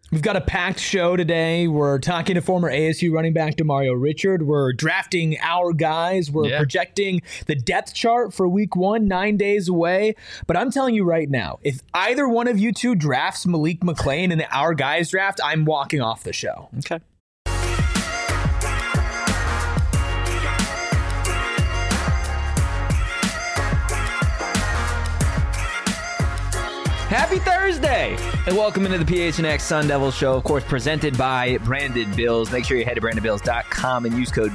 We've got a packed show today. We're talking to former ASU running back Demario Richard. We're drafting our guys. We're projecting the depth chart for week 1, 9 days away. But I'm telling you right now, if either one of you two drafts Malik McClain in the Our Guys draft, I'm walking off the show. Okay. Happy Thursday, and welcome into the PHNX Sun Devils Show, of course, presented by Branded Bills. Make sure you head to brandedbills.com and use code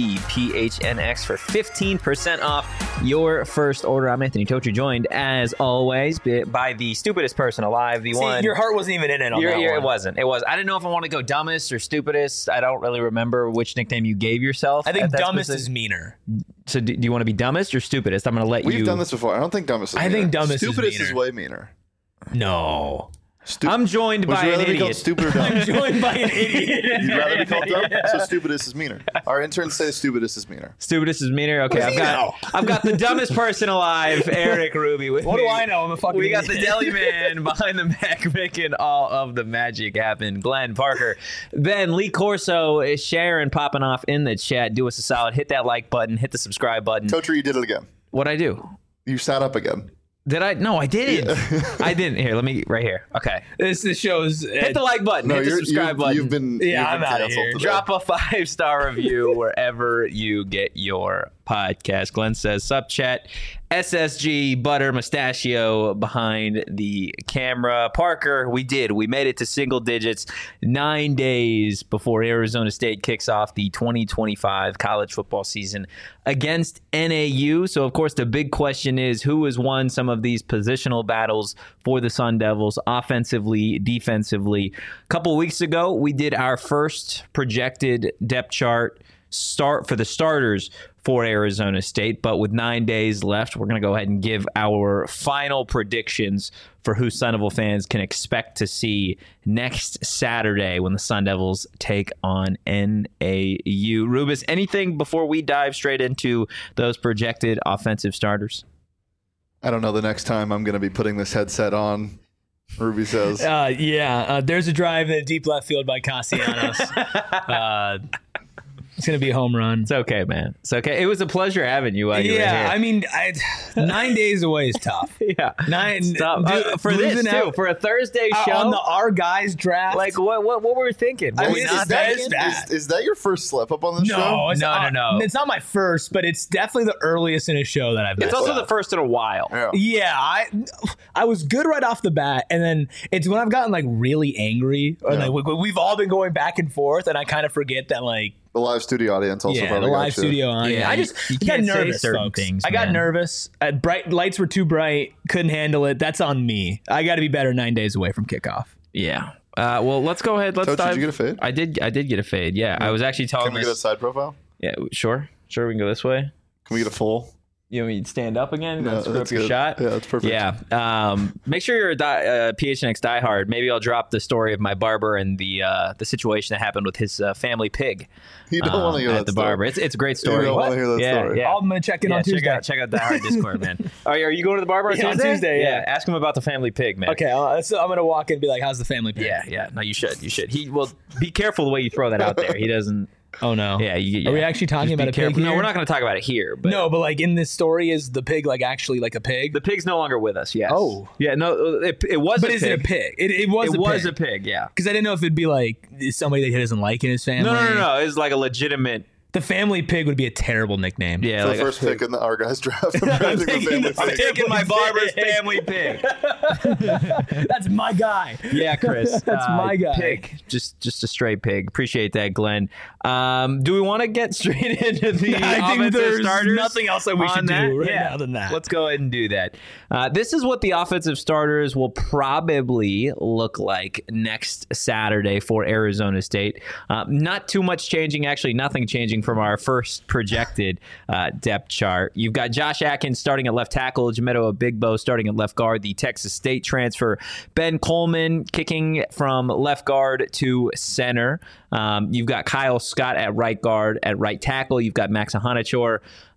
BBPHNX for 15% off your first order. I'm Anthony Totri, joined, as always, by the stupidest person alive, the one... Your heart wasn't even in it on that one. It wasn't. I didn't know if I want to go dumbest or stupidest. I don't really remember which nickname you gave yourself. I think dumbest is meaner. So do you want to be dumbest or stupidest? I'm going to let you... We've done this before. I don't think dumbest is meaner. I think dumbest stupidest is is way meaner. No. I'm joined by an idiot. Stupid or dumb? I'm joined by an idiot. You'd rather be called dumb? So stupidest is meaner. Our interns say stupidest is meaner. Stupidest is meaner. Okay, I've got the dumbest person alive, Eric Ruby, with What me. do I know? I'm a fucking We got idiot. the deli man behind the Mac making all of the magic happen. Glenn Parker, Ben, Lee Corso, Sharon popping off in the chat. Do us a solid. Hit that like button. Hit the subscribe button. Totri, you did it again. What'd I do? You sat up again. Did I? No, I didn't. I didn't. Here, let me, right here. Okay. This shows. Hit the like button. No, hit the subscribe button. You've been I'm outta canceled here. today. Drop a 5-star review wherever you get your podcast. Glenn says, sup chat, SSG, butter, mustachio behind the camera. Parker, we made it to single digits 9 days before Arizona State kicks off the 2025 college football season against NAU. So, of course, the big question is who has won some of these positional battles for the Sun Devils, offensively, defensively. A couple weeks ago, we did our first projected depth chart start for the starters for Arizona State, but with 9 days left, we're going to go ahead and give our final predictions for who Sun Devil fans can expect to see next Saturday when the Sun Devils take on NAU. Rubus, anything before we dive straight into those projected offensive starters? I don't know the next time I'm going to be putting this headset on, Ruby says. There's a drive in the deep left field by Castellanos. It's going to be a home run. It's okay, man. It's okay. It was a pleasure having you while you were here. I mean, 9 days away is tough. Yeah. For losing this, too. For a Thursday show. On the Our Guys draft. Like, what were we thinking? I Were mean, we not thinking? Is that your first slip up on the show? No, it's No. It's not my first, but it's definitely the earliest in a show that I've It's messed also up. the first in a while. Yeah. I was good right off the bat, and then it's when I've gotten like really angry, or like we've all been going back and forth, and I kind of forget that like The live studio audience also the probably got live you. studio on. Yeah, I you got can't say nervous, certain folks. things, I got man. nervous. Bright lights were too bright, couldn't handle it. That's on me. I got to be better 9 days away from kickoff. Yeah. Well, let's go ahead. Let's Coach, dive. did you get a fade? I did get a fade. Yeah. I was actually talking. Can we get a side profile? Yeah, sure. We can go this way. Can we get a full? You want me to stand up again? No, Screw up that's your good. shot? Yeah, that's perfect. Yeah. Make sure you're a PHNX diehard. Maybe I'll drop the story of my barber and the situation that happened with his family pig. You don't want to hear at that the story. barber. It's a great story. You don't want to hear that story. Yeah. I'm gonna check in on Tuesday. Check out Diehard Discord, man. Are you going to the barber on Yeah, Tuesday? on Tuesday, yeah. Ask him about the family pig, man. Okay, so I'm gonna walk in and be like, "How's the family pig?" Yeah. No, you should. He will be careful the way you throw that out there. He doesn't. Oh no. Yeah. Are we actually talking Just be about a pig careful. here? No, we're not going to talk about it here. But No, but like in this story, is the pig like actually like a pig? the pig's no longer with us. Yes. Oh. Yeah. No, it was. But a is pig. it a pig? It was. It was pig. a pig. Yeah. Because I didn't know if it'd be like somebody that he doesn't like in his family. No. It's like a legitimate. The family pig would be a terrible nickname. Yeah. For Like the first pick in the Our Guys draft. I'm I'm taking the I'm taking my barber's family pig. That's my guy. Yeah, Chris. That's my guy. Pig. Just a straight pig. Appreciate that, Glenn. Do we want to get straight into the I think offensive there's starters? nothing else that we on should that? do right Yeah. now than that. Let's go ahead and do that. This is what the offensive starters will probably look like next Saturday for Arizona State. Not too much changing. Actually, nothing changing from our first projected depth chart. You've got Josh Atkins starting at left tackle, Jamedo Abigbo starting at left guard, the Texas State transfer, Ben Coleman kicking from left guard to center. You've got Kyle Scott at right guard, at right tackle. You've got Max Ahanachor.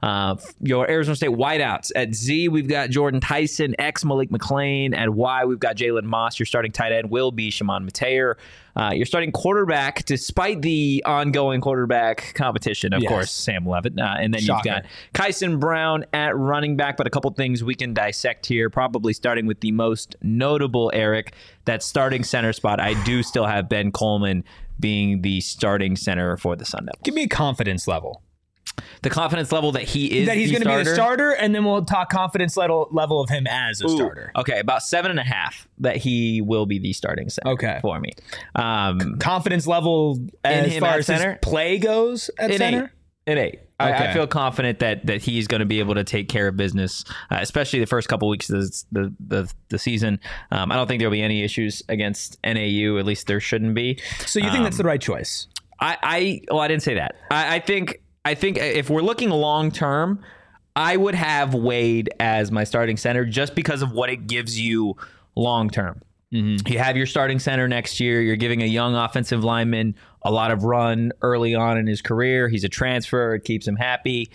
Your Arizona State wideouts. At Z, we've got Jordan Tyson, Malik McLean. At Y, we've got Jalen Moss. Your starting tight end will be Shimon Mateer. Your starting quarterback, despite the ongoing quarterback competition, of course, Sam Levitt. And then you've got Kyson Brown at running back. But a couple things we can dissect here, probably starting with the most notable, Eric, that starting center spot. I do still have Ben Coleman being the starting center for the Sun Devils. Give me a confidence level. The confidence level that he is that he's going to be the starter, and then we'll talk confidence level of him as a starter. Okay, about 7.5 that he will be the starting center for me. Confidence level as far as center? His play goes at center? An 8. I feel confident that he's going to be able to take care of business, especially the first couple weeks of the season. I don't think there'll be any issues against NAU. At least there shouldn't be. So you think that's the right choice? I didn't say that. I think if we're looking long term, I would have Wade as my starting center just because of what it gives you long term. Mm-hmm. You have your starting center next year. You're giving a young offensive lineman a lot of run early on in his career. He's a transfer. It keeps him happy.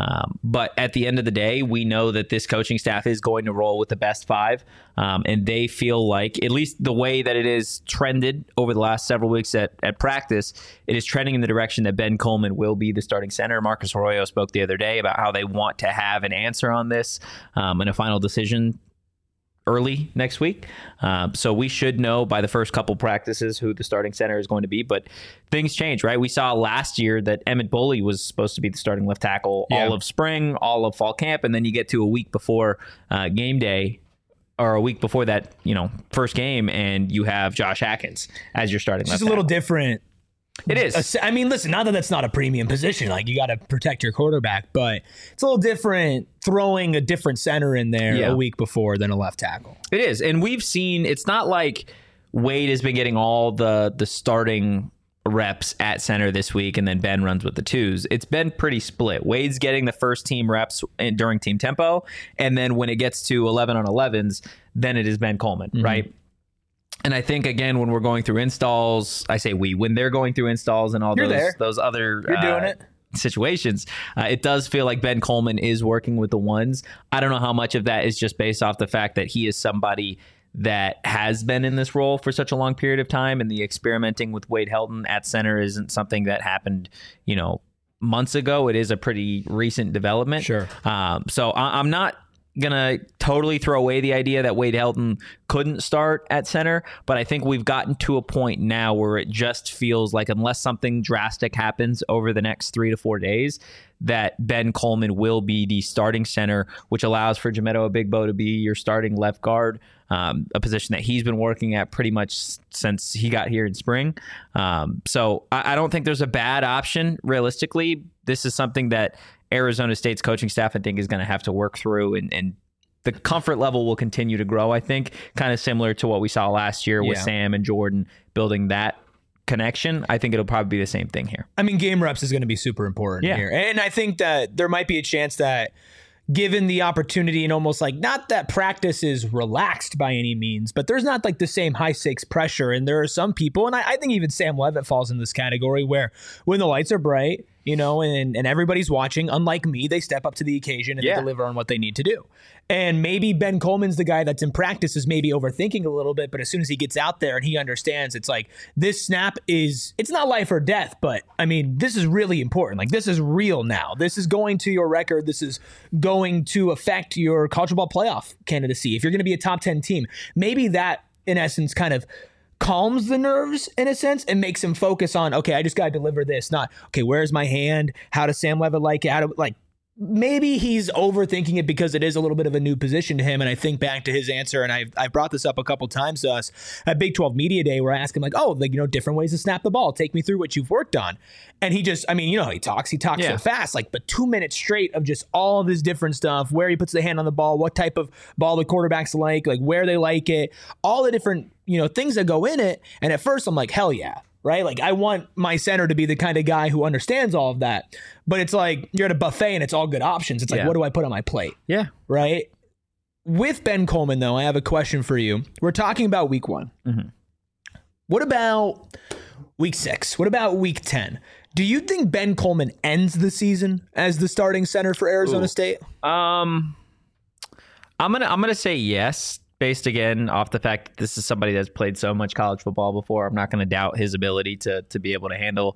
But at the end of the day, we know that this coaching staff is going to roll with the best 5. And they feel like, at least the way that it is trended over the last several weeks at practice, it is trending in the direction that Ben Coleman will be the starting center. Marcus Arroyo spoke the other day about how they want to have an answer on this and a final decision early next week. So we should know by the first couple practices who the starting center is going to be, but things change, right? We saw last year that Emmett Boley was supposed to be the starting left tackle all of spring, all of fall camp, and then you get to a week before game day, or a week before that, first game, and you have Josh Atkins as your starting left tackle. It's a little different. It is. I mean, listen, not that that's not a premium position. Like, you got to protect your quarterback, but it's a little different throwing a different center in there a week before than a left tackle. It is. And we've seen, it's not like Wade has been getting all the starting reps at center this week and then Ben runs with the 2s. It's been pretty split. Wade's getting the first team reps during team tempo, and then when it gets to 11 on 11s, then it is Ben Coleman, right? And I think, again, when we're going through installs, I say when they're going through installs and all those other doing it. Situations, it does feel like Ben Coleman is working with the 1s. I don't know how much of that is just based off the fact that he is somebody that has been in this role for such a long period of time, and the experimenting with Wade Helton at center isn't something that happened, months ago. It is a pretty recent development. Sure. So I'm not gonna totally throw away the idea that Wade Helton couldn't start at center, but I think we've gotten to a point now where it just feels like, unless something drastic happens over the next 3 to 4 days, that Ben Coleman will be the starting center, which allows for Jamedo Abigbo to be your starting left guard, a position that he's been working at pretty much since he got here in spring. So I don't think there's a bad option. Realistically, this is something that Arizona State's coaching staff, I think, is going to have to work through, and the comfort level will continue to grow, I think, kind of similar to what we saw last year with Sam and Jordan building that connection. I think it'll probably be the same thing here. I mean, game reps is going to be super important here. And I think that there might be a chance that, given the opportunity, and almost like, not that practice is relaxed by any means, but there's not like the same high stakes pressure. And there are some people, and I think even Sam Levitt falls in this category, where when the lights are bright, and everybody's watching, unlike me, they step up to the occasion and they deliver on what they need to do. And maybe Ben Coleman's the guy that's in practice is maybe overthinking a little bit, but as soon as he gets out there and he understands, it's like, this snap it's not life or death, but I mean, this is really important. Like, this is real now. This is going to your record. This is going to affect your college football playoff candidacy. If you're going to be a top 10 team, maybe that, in essence, kind of calms the nerves in a sense and makes him focus on, okay, I just got to deliver this, not, okay, where's my hand? How does Sam Levitt like it? Maybe he's overthinking it because it is a little bit of a new position to him. And I think back to his answer, and I've brought this up a couple times to us at Big 12 Media Day, where I asked him different ways to snap the ball. Take me through what you've worked on. And he just, how he talks so fast, but 2 minutes straight of just all this different stuff, where he puts the hand on the ball, what type of ball the quarterbacks like where they like it, all the different, things that go in it. And at first I'm like, hell yeah. right? Like I want my center to be the kind of guy who understands all of that. But it's like you're at a buffet and it's all good options. It's like, what do I put on my plate? Yeah. Right? With Ben Coleman, though, I have a question for you. We're talking about week 1. Mm-hmm. What about week 6? What about week 10? Do you think Ben Coleman ends the season as the starting center for Arizona State? I'm gonna say yes, based again off the fact that this is somebody that's played so much college football before. I'm not going to doubt his ability to be able to handle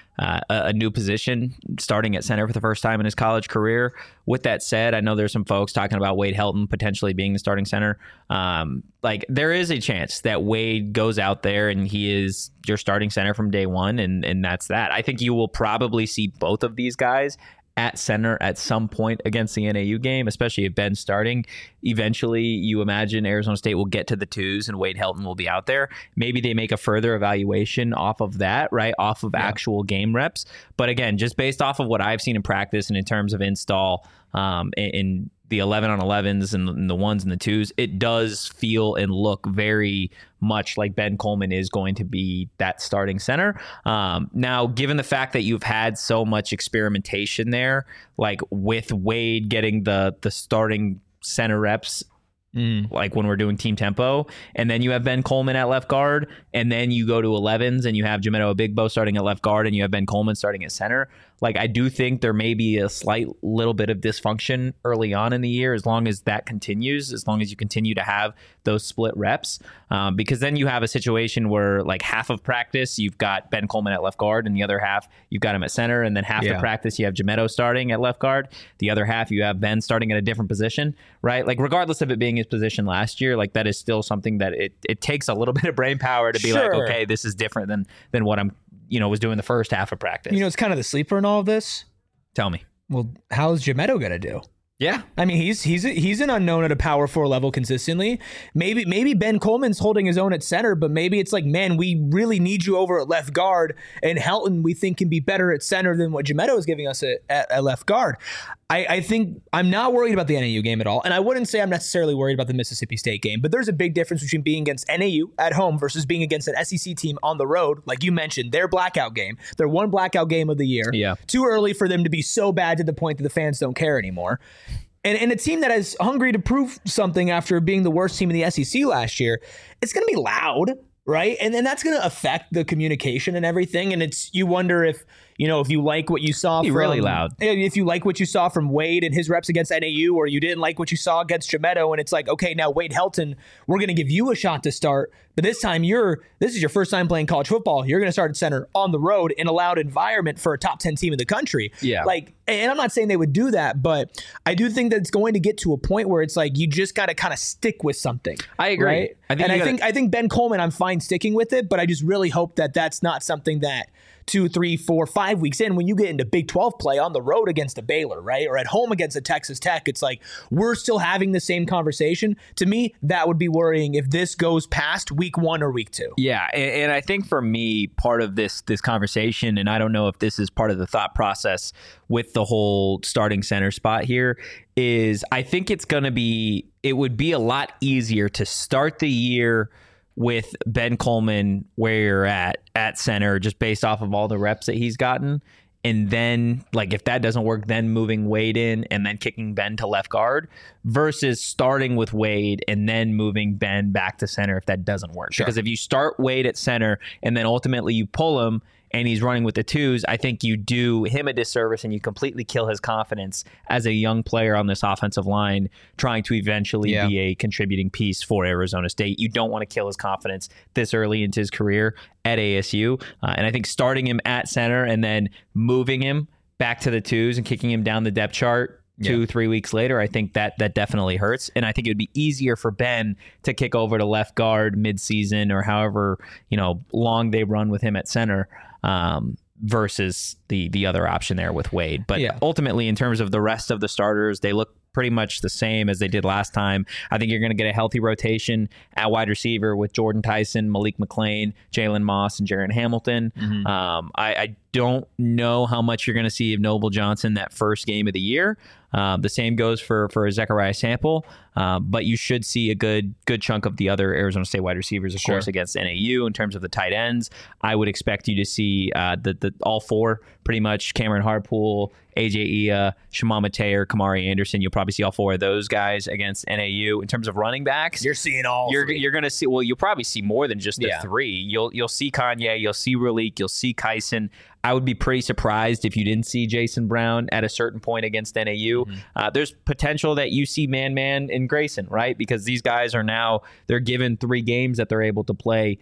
a new position starting at center for the first time in his college career. With that said, I know there's some folks talking about Wade Helton potentially being the starting center. Like there is a chance that Wade goes out there and he is your starting center from day one, and that's that. I think you will probably see both of these guys at center at some point against the NAU game, especially if Ben's starting. Eventually, you imagine Arizona State will get to the twos and Wade Helton will be out there. Maybe they make a further evaluation off of that, right? Off of actual game reps. But again, just based off of what I've seen in practice and in terms of install in the 11 on 11s and the ones and the twos, it does feel and look very much like Ben Coleman is going to be that starting center. Now, given the fact that you've had so much experimentation there, like with Wade getting the starting center reps, like when we're doing team tempo, and then you have Ben Coleman at left guard, and then you go to 11s and you have Jamito Abigbo starting at left guard and you have Ben Coleman starting at center. Like I do think there may be a slight little bit of dysfunction early on in the year, as long as that continues, as long as you continue to have those split reps, because then you have a situation where like half of practice you've got Ben Coleman at left guard and the other half you've got him at center, and then half the practice you have Jamito starting at left guard, the other half you have Ben starting at a different position, right? Like regardless of it being his position last year, like that is still something that it takes a little bit of brain power to be like, okay, this is different than what I'm was doing the first half of practice. It's kind of the sleeper in all of this. Tell me. Well, how's Jamito going to do? Yeah. I mean, he's an unknown at a power 4 level consistently. Maybe Ben Coleman's holding his own at center, but maybe it's like, man, we really need you over at left guard, and Helton we think can be better at center than what Jamito is giving us at left guard. I think I'm not worried about the NAU game at all, and I wouldn't say I'm necessarily worried about the Mississippi State game, but there's a big difference between being against NAU at home versus being against an SEC team on the road. Like you mentioned, their blackout game, their one blackout game of the year. Yeah. Too early for them to be so bad to the point that the fans don't care anymore. And a team that is hungry to prove something after being the worst team in the SEC last year, it's going to be loud, right? And then that's going to affect the communication and everything. And you wonder if you like what you saw from really loud. If you like what you saw from Wade and his reps against NAU, or you didn't like what you saw against Jamito, and it's like, okay, now Wade Helton, we're going to give you a shot to start, but this time this is your first time playing college football. You're going to start at center on the road in a loud environment for a top 10 team in the country. Yeah. Like, and I'm not saying they would do that, but I do think that it's going to get to a point where it's like you just got to kind of stick with something. I agree. Right? I think Ben Coleman, I'm fine sticking with it, but I just really hope that that's not something that 2, 3, 4, 5 weeks in, when you get into Big 12 play on the road against a Baylor, right? Or at home against a Texas Tech, it's like we're still having the same conversation. To me, that would be worrying if this goes past week 1 or week 2. Yeah, and I think for me, part of this conversation, and I don't know if this is part of the thought process with the whole starting center spot here, is I think it would be a lot easier to start the year with Ben Coleman where you're at center, just based off of all the reps that he's gotten. And then, like, if that doesn't work, then moving Wade in and then kicking Ben to left guard, versus starting with Wade and then moving Ben back to center if that doesn't work. Sure. Because if you start Wade at center and then ultimately you pull him and he's running with the twos, I think you do him a disservice and you completely kill his confidence as a young player on this offensive line trying to eventually be a contributing piece for Arizona State. You don't want to kill his confidence this early into his career at ASU. And I think starting him at center and then moving him back to the twos and kicking him down the depth chart 2-3 weeks later, I think that definitely hurts. And I think it would be easier for Ben to kick over to left guard midseason or however long they run with him at center, versus the other option there with Wade. But ultimately, in terms of the rest of the starters, they look pretty much the same as they did last time. I think you're going to get a healthy rotation at wide receiver with Jordan Tyson, Malik McClain, Jalen Moss, and Jaron Hamilton. Mm-hmm. I don't know how much you're going to see of Noble Johnson that first game of the year. The same goes for Zechariah Sample, but you should see a good chunk of the other Arizona State wide receivers, of course, against NAU. In terms of the tight ends, I would expect you to see the all four pretty much: Cameron Harpool, AJ Ia, Shimama Taylor, Kamari Anderson. You'll probably see all four of those guys against NAU. In terms of running backs, you're seeing all. You're going to see. Well, you'll probably see more than just the three. You'll see Kanye, you'll see Raleek, you'll see Kyson. I would be pretty surprised if you didn't see Jason Brown at a certain point against NAU. There's potential that you see Man and Grayson, right? Because these guys they're given 3 games that they're able to play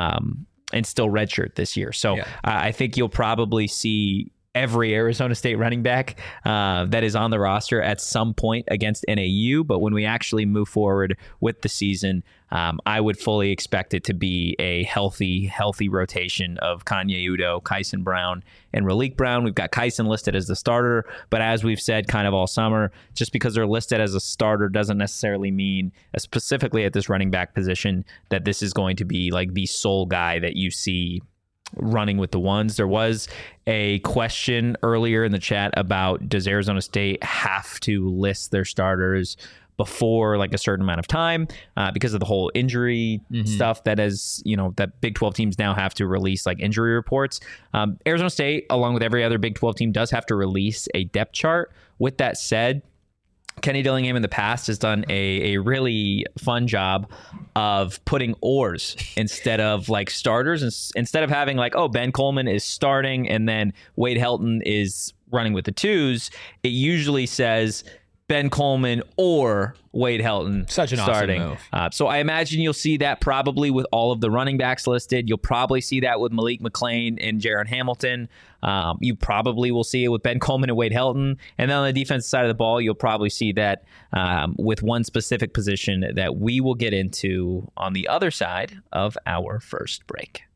and still redshirt this year. So I think you'll probably see every Arizona State running back that is on the roster at some point against NAU. But when we actually move forward with the season, I would fully expect it to be a healthy rotation of Kanye Udoh, Kyson Brown, and Raleek Brown. We've got Kyson listed as the starter, but as we've said kind of all summer, just because they're listed as a starter doesn't necessarily mean, specifically at this running back position, that this is going to be like the sole guy that you see running with the ones. There was a question earlier in the chat about, does Arizona State have to list their starters before like a certain amount of time because of the whole injury stuff that that Big 12 teams now have to release like injury reports. Arizona State, along with every other Big 12 team, does have to release a depth chart. With that said, Kenny Dillingham in the past has done a really fun job of putting oars instead of like starters. Instead of having like, Ben Coleman is starting and then Wade Helton is running with the twos, it usually says Ben Coleman or Wade Helton Such an starting. Awesome move. So I imagine you'll see that probably with all of the running backs listed. You'll probably see that with Malik McClain and Jaron Hamilton. You probably will see it with Ben Coleman and Wade Helton. And then on the defensive side of the ball, you'll probably see that with one specific position that we will get into on the other side of our first break.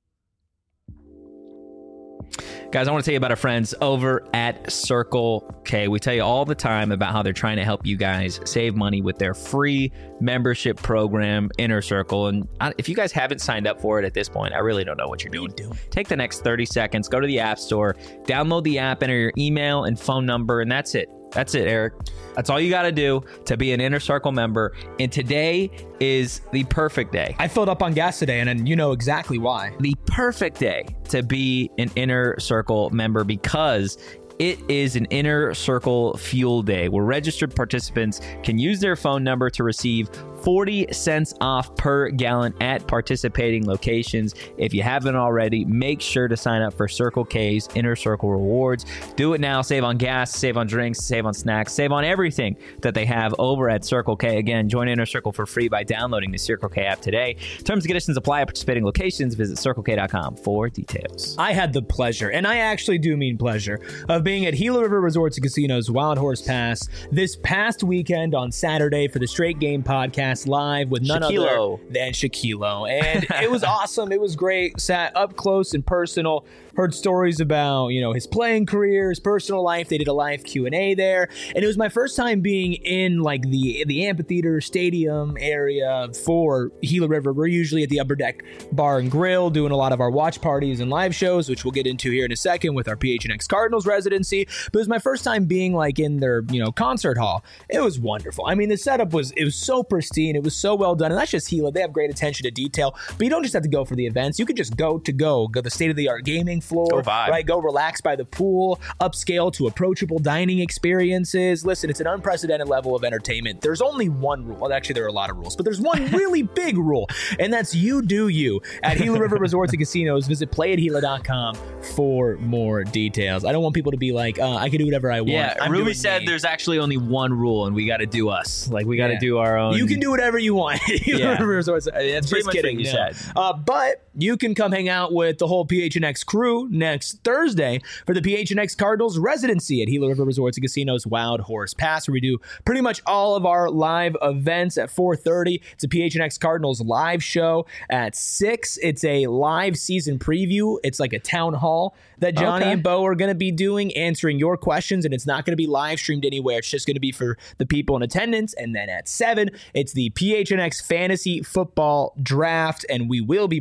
Guys, I want to tell you about our friends over at Circle K. We tell you all the time about how they're trying to help you guys save money with their free membership program, Inner Circle. And if you guys haven't signed up for it at this point, I really don't know what you're doing. Take the next 30 seconds, go to the App Store, download the app, enter your email and phone number, and that's it. That's it, Eric. That's all you got to do to be an Inner Circle member. And today is the perfect day. I filled up on gas today, and you know exactly why. The perfect day to be an Inner Circle member because it is an Inner Circle Fuel Day where registered participants can use their phone number to receive 40 cents off per gallon at participating locations. If you haven't already, make sure to sign up for Circle K's Inner Circle Rewards. Do it now. Save on gas, save on drinks, save on snacks, save on everything that they have over at Circle K. Again, join Inner Circle for free by downloading the Circle K app today. Terms and conditions apply at participating locations. Visit CircleK.com for details. I had the pleasure, and I actually do mean pleasure, of being at Gila River Resorts and Casinos Wild Horse Pass this past weekend on Saturday for the Straight Game Podcast live with none other than Shaquille. And it was awesome. It was great. Sat up close and personal. Heard stories about, his playing career, his personal life. They did a live Q&A there. And it was my first time being in like the amphitheater stadium area for Gila River. We're usually at the Upper Deck Bar and Grill doing a lot of our watch parties and live shows, which we'll get into here in a second with our PHNX Cardinals residency. But it was my first time being like in their, concert hall. It was wonderful. I mean, the setup was so pristine. It was so well done. And that's just Gila. They have great attention to detail. But you don't just have to go for the events. You could just go the state-of-the-art gaming floor, right? Go relax by the pool, upscale to approachable dining experiences. Listen, it's an unprecedented level of entertainment. There's only one rule. Well, actually, there are a lot of rules, but there's one really big rule, and that's you do you. At Gila River Resorts and Casinos, visit playatgila.com for more details. I don't want people to be like, I can do whatever I want. Yeah, Ruby said there's actually only one rule, and we got to do us. Like, we got to do our own. You can do whatever you want. Gila River Resorts. That's pretty much what you said. But you can come hang out with the whole PHNX crew next Thursday for the PHNX Cardinals residency at Gila River Resorts and Casinos Wild Horse Pass, where we do pretty much all of our live events at 4:30. It's a PHNX Cardinals live show at 6. It's a live season preview. It's like a town hall that Johnny and Bo are going to be doing, answering your questions, and it's not going to be live streamed anywhere. It's just going to be for the people in attendance. And then at 7, it's the PHNX Fantasy Football Draft, and we will be broadcasting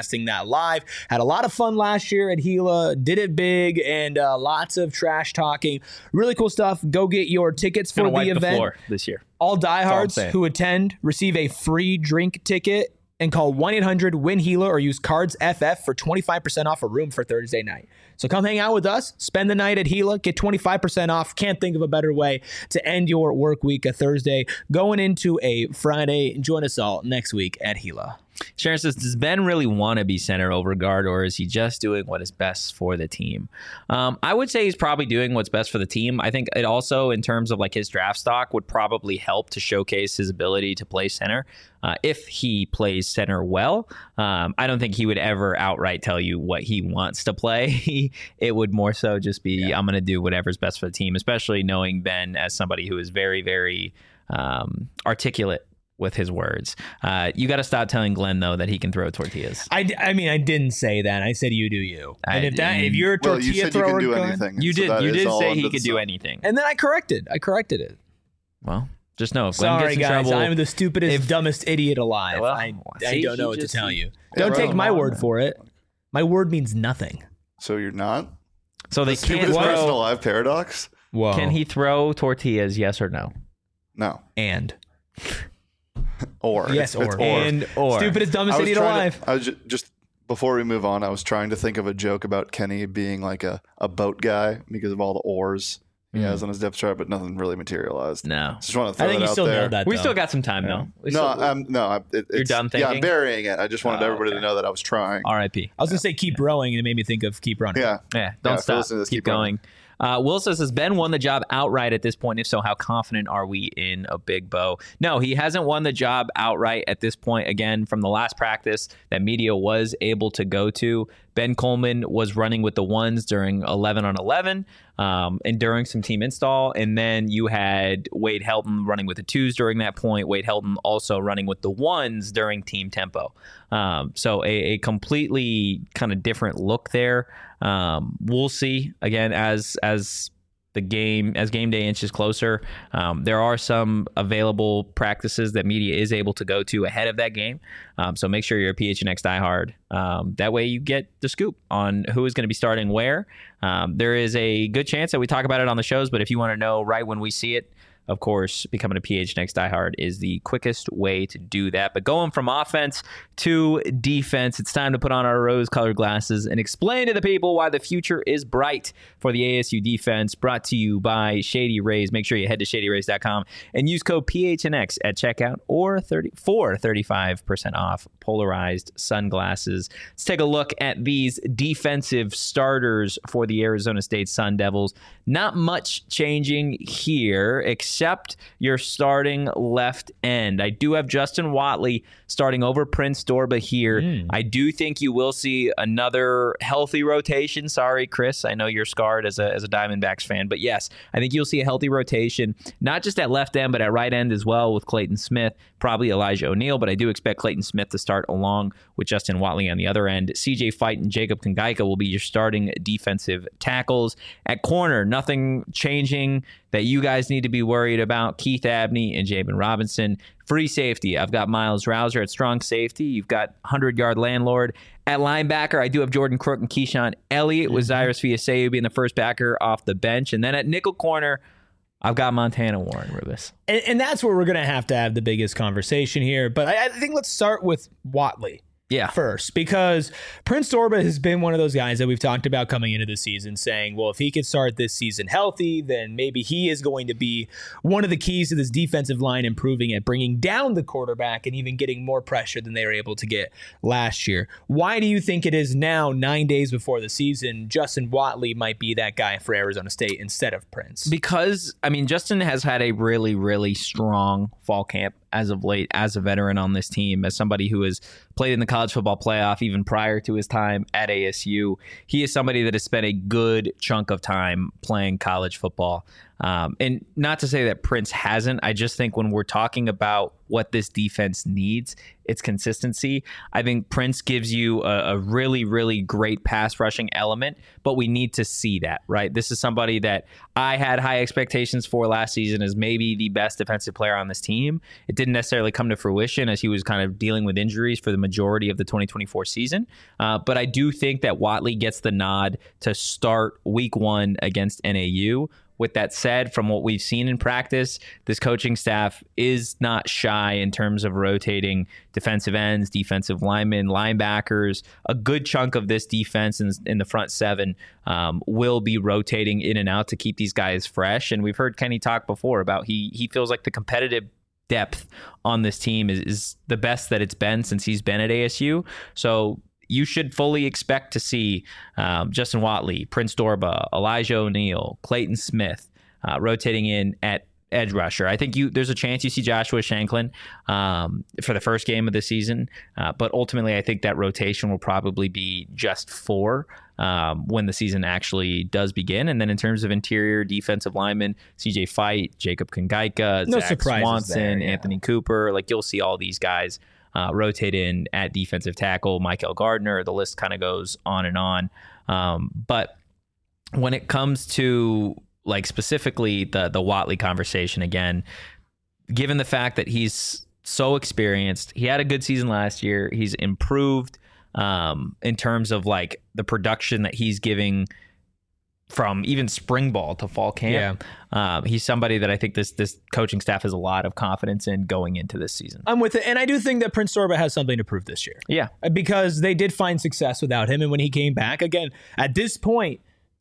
broadcasting that live. Had a lot of fun last year at Gila, did it big, and lots of trash talking. Really cool stuff. Go get your tickets for the event. The floor this year. All diehards who attend receive a free drink ticket. And call 1-800-WIN-HELA or use cards FF for 25% off a room for Thursday night. So come hang out with us, spend the night at Gila, get 25% off. Can't think of a better way to end your work week, a Thursday going into a Friday. Join us all next week at Gila. Sharon says, does Ben really want to be center over guard, or is he just doing what is best for the team? I would say he's probably doing what's best for the team. I think it also, in terms of like his draft stock, would probably help to showcase his ability to play center. If he plays center well, I don't think he would ever outright tell you what he wants to play. It would more so just be, I'm going to do whatever's best for the team, especially knowing Ben as somebody who is very, very articulate with his words. You got to stop telling Glenn, though, that he can throw tortillas. I mean, I didn't say that. I said you do you. And if you're a tortilla thrower, you can do anything. You did say he could do anything. And then I corrected it. Well, just know if Glenn Sorry, gets in guys, trouble, I'm the stupidest, dumbest idiot alive. Well, I don't know what to tell you. Yeah, Don't take my word for it. My word means nothing. So you're not? So they can't Stupidest person throw. alive paradox? Whoa. Can he throw tortillas? Yes or no? No. And. Or. Yes, it's or. And or. Stupidest, dumbest idiot alive. I was just before we move on, I was trying to think of a joke about Kenny being like a boat guy because of all the oars he has on his depth chart, but nothing really materialized. No. Just want to throw I think that you out still there. nailed that. We though. still got some time, though. You're done thinking? Yeah, I'm burying it. I just wanted everybody okay. to know that I was trying. R.I.P. I was going to say keep rowing, and it made me think of keep running. Yeah. Yeah, don't stop. listen to this, Keep keep running. going. Will says, has Ben won the job outright at this point? If so, how confident are we in a Big Bo? No, he hasn't won the job outright at this point. Again, from the last practice that media was able to go to, Ben Coleman was running with the ones during 11-on-11 and during some team install. And then you had Wade Helton running with the twos during that point. Wade Helton also running with the ones during team tempo. So a completely kind of different look there. We'll see again as game day inches closer. There are some available practices that media is able to go to ahead of that game. So make sure you're a PHNX diehard. That way you get the scoop on who is going to be starting where. There is a good chance that we talk about it on the shows, but if you want to know right when we see it, of course, becoming a PHNX diehard is the quickest way to do that. But going from offense to defense, it's time to put on our rose-colored glasses and explain to the people why the future is bright for the ASU defense. Brought to you by Shady Rays. Make sure you head to ShadyRays.com and use code PHNX at checkout or for 35% off polarized sunglasses. Let's take a look at these defensive starters for the Arizona State Sun Devils. Not much changing here, except your starting left end. I do have Justin Watley starting over Prince Dorba here. I do think you will see another healthy rotation. Sorry, Chris. I know you're scarred as a Diamondbacks fan, but yes, I think you'll see a healthy rotation, not just at left end, but at right end as well with Clayton Smith, probably Elijah O'Neal, but I do expect Clayton Smith to start along with Justin Watley on the other end. CJ Fight and Jacob Kangaika will be your starting defensive tackles. At corner, nothing changing that you guys need to be worried about. Keith Abney and Jabin Robinson. Free safety, I've got Miles Rouser at strong safety. You've got 100-yard landlord. At linebacker, I do have Jordan Crook and Keyshawn Elliott with Cyrus Viaseu being the first backer off the bench. And then at nickel corner, I've got Montana Warren, Rubis. And that's where we're going to have the biggest conversation here. But I think let's start with Watley. First, because Prince Dorba has been one of those guys that we've talked about coming into the season saying, well, if he could start this season healthy, then maybe he is going to be one of the keys to this defensive line improving at bringing down the quarterback and even getting more pressure than they were able to get last year. Why do you think it is now, 9 days before the season, Justin Watley might be that guy for Arizona State instead of Prince? Because, I mean, Justin has had a really, really strong fall camp as of late, as a veteran on this team, as somebody who has played in the college football playoff even prior to his time at ASU. He is somebody that has spent a good chunk of time playing college football. And not to say that Prince hasn't. I just think when we're talking about what this defense needs, it's consistency. I think Prince gives you a really, really great pass rushing element, but we need to see that, right? This is somebody that I had high expectations for last season as maybe the best defensive player on this team. It didn't necessarily come to fruition as he was kind of dealing with injuries for the majority of the 2024 season. But I do think that Watley gets the nod to start week 1 against NAU. With that said, from what we've seen in practice, this coaching staff is not shy in terms of rotating defensive ends, defensive linemen, linebackers. A good chunk of this defense in the front 7 will be rotating in and out to keep these guys fresh. And we've heard Kenny talk before about he feels like the competitive depth on this team is the best that it's been since he's been at ASU. So you should fully expect to see Justin Watley, Prince Dorbah, Elijah O'Neal, Clayton Smith rotating in at edge rusher. I think there's a chance you see Joshua Shanklin for the first game of the season, but ultimately I think that rotation will probably be just 4 when the season actually does begin. And then in terms of interior defensive linemen, CJ Fight, Jacob Kongaika, no Zach Swanson, Anthony Cooper, like you'll see all these guys rotate in at defensive tackle, Michael Gardner. The list kind of goes on and on. But when it comes to like specifically the Watley conversation, again, given the fact that he's so experienced, he had a good season last year. He's improved in terms of like the production that he's giving from even spring ball to fall camp. Yeah. He's somebody that I think this coaching staff has a lot of confidence in going into this season. I'm with it. And I do think that Prince Dorbah has something to prove this year. Yeah. Because they did find success without him. And when he came back, again, at this point,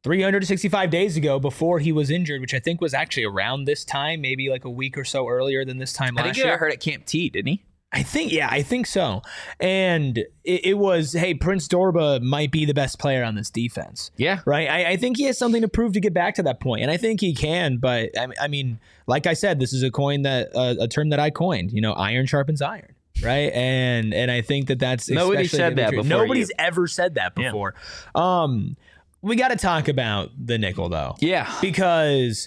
365 days ago before he was injured, which I think was actually around this time, maybe like a week or so earlier than this time last year. I think he got hurt at Camp T, didn't he? I think so. And it was, hey, Prince Dorbah might be the best player on this defense. Yeah. Right? I think he has something to prove to get back to that point. And I think he can. But, I mean, like I said, this is a term that I coined. Iron sharpens iron. Right? And I think that's... Nobody said that before. Nobody's ever said that before. Yeah. We got to talk about the nickel, though. Yeah. Because...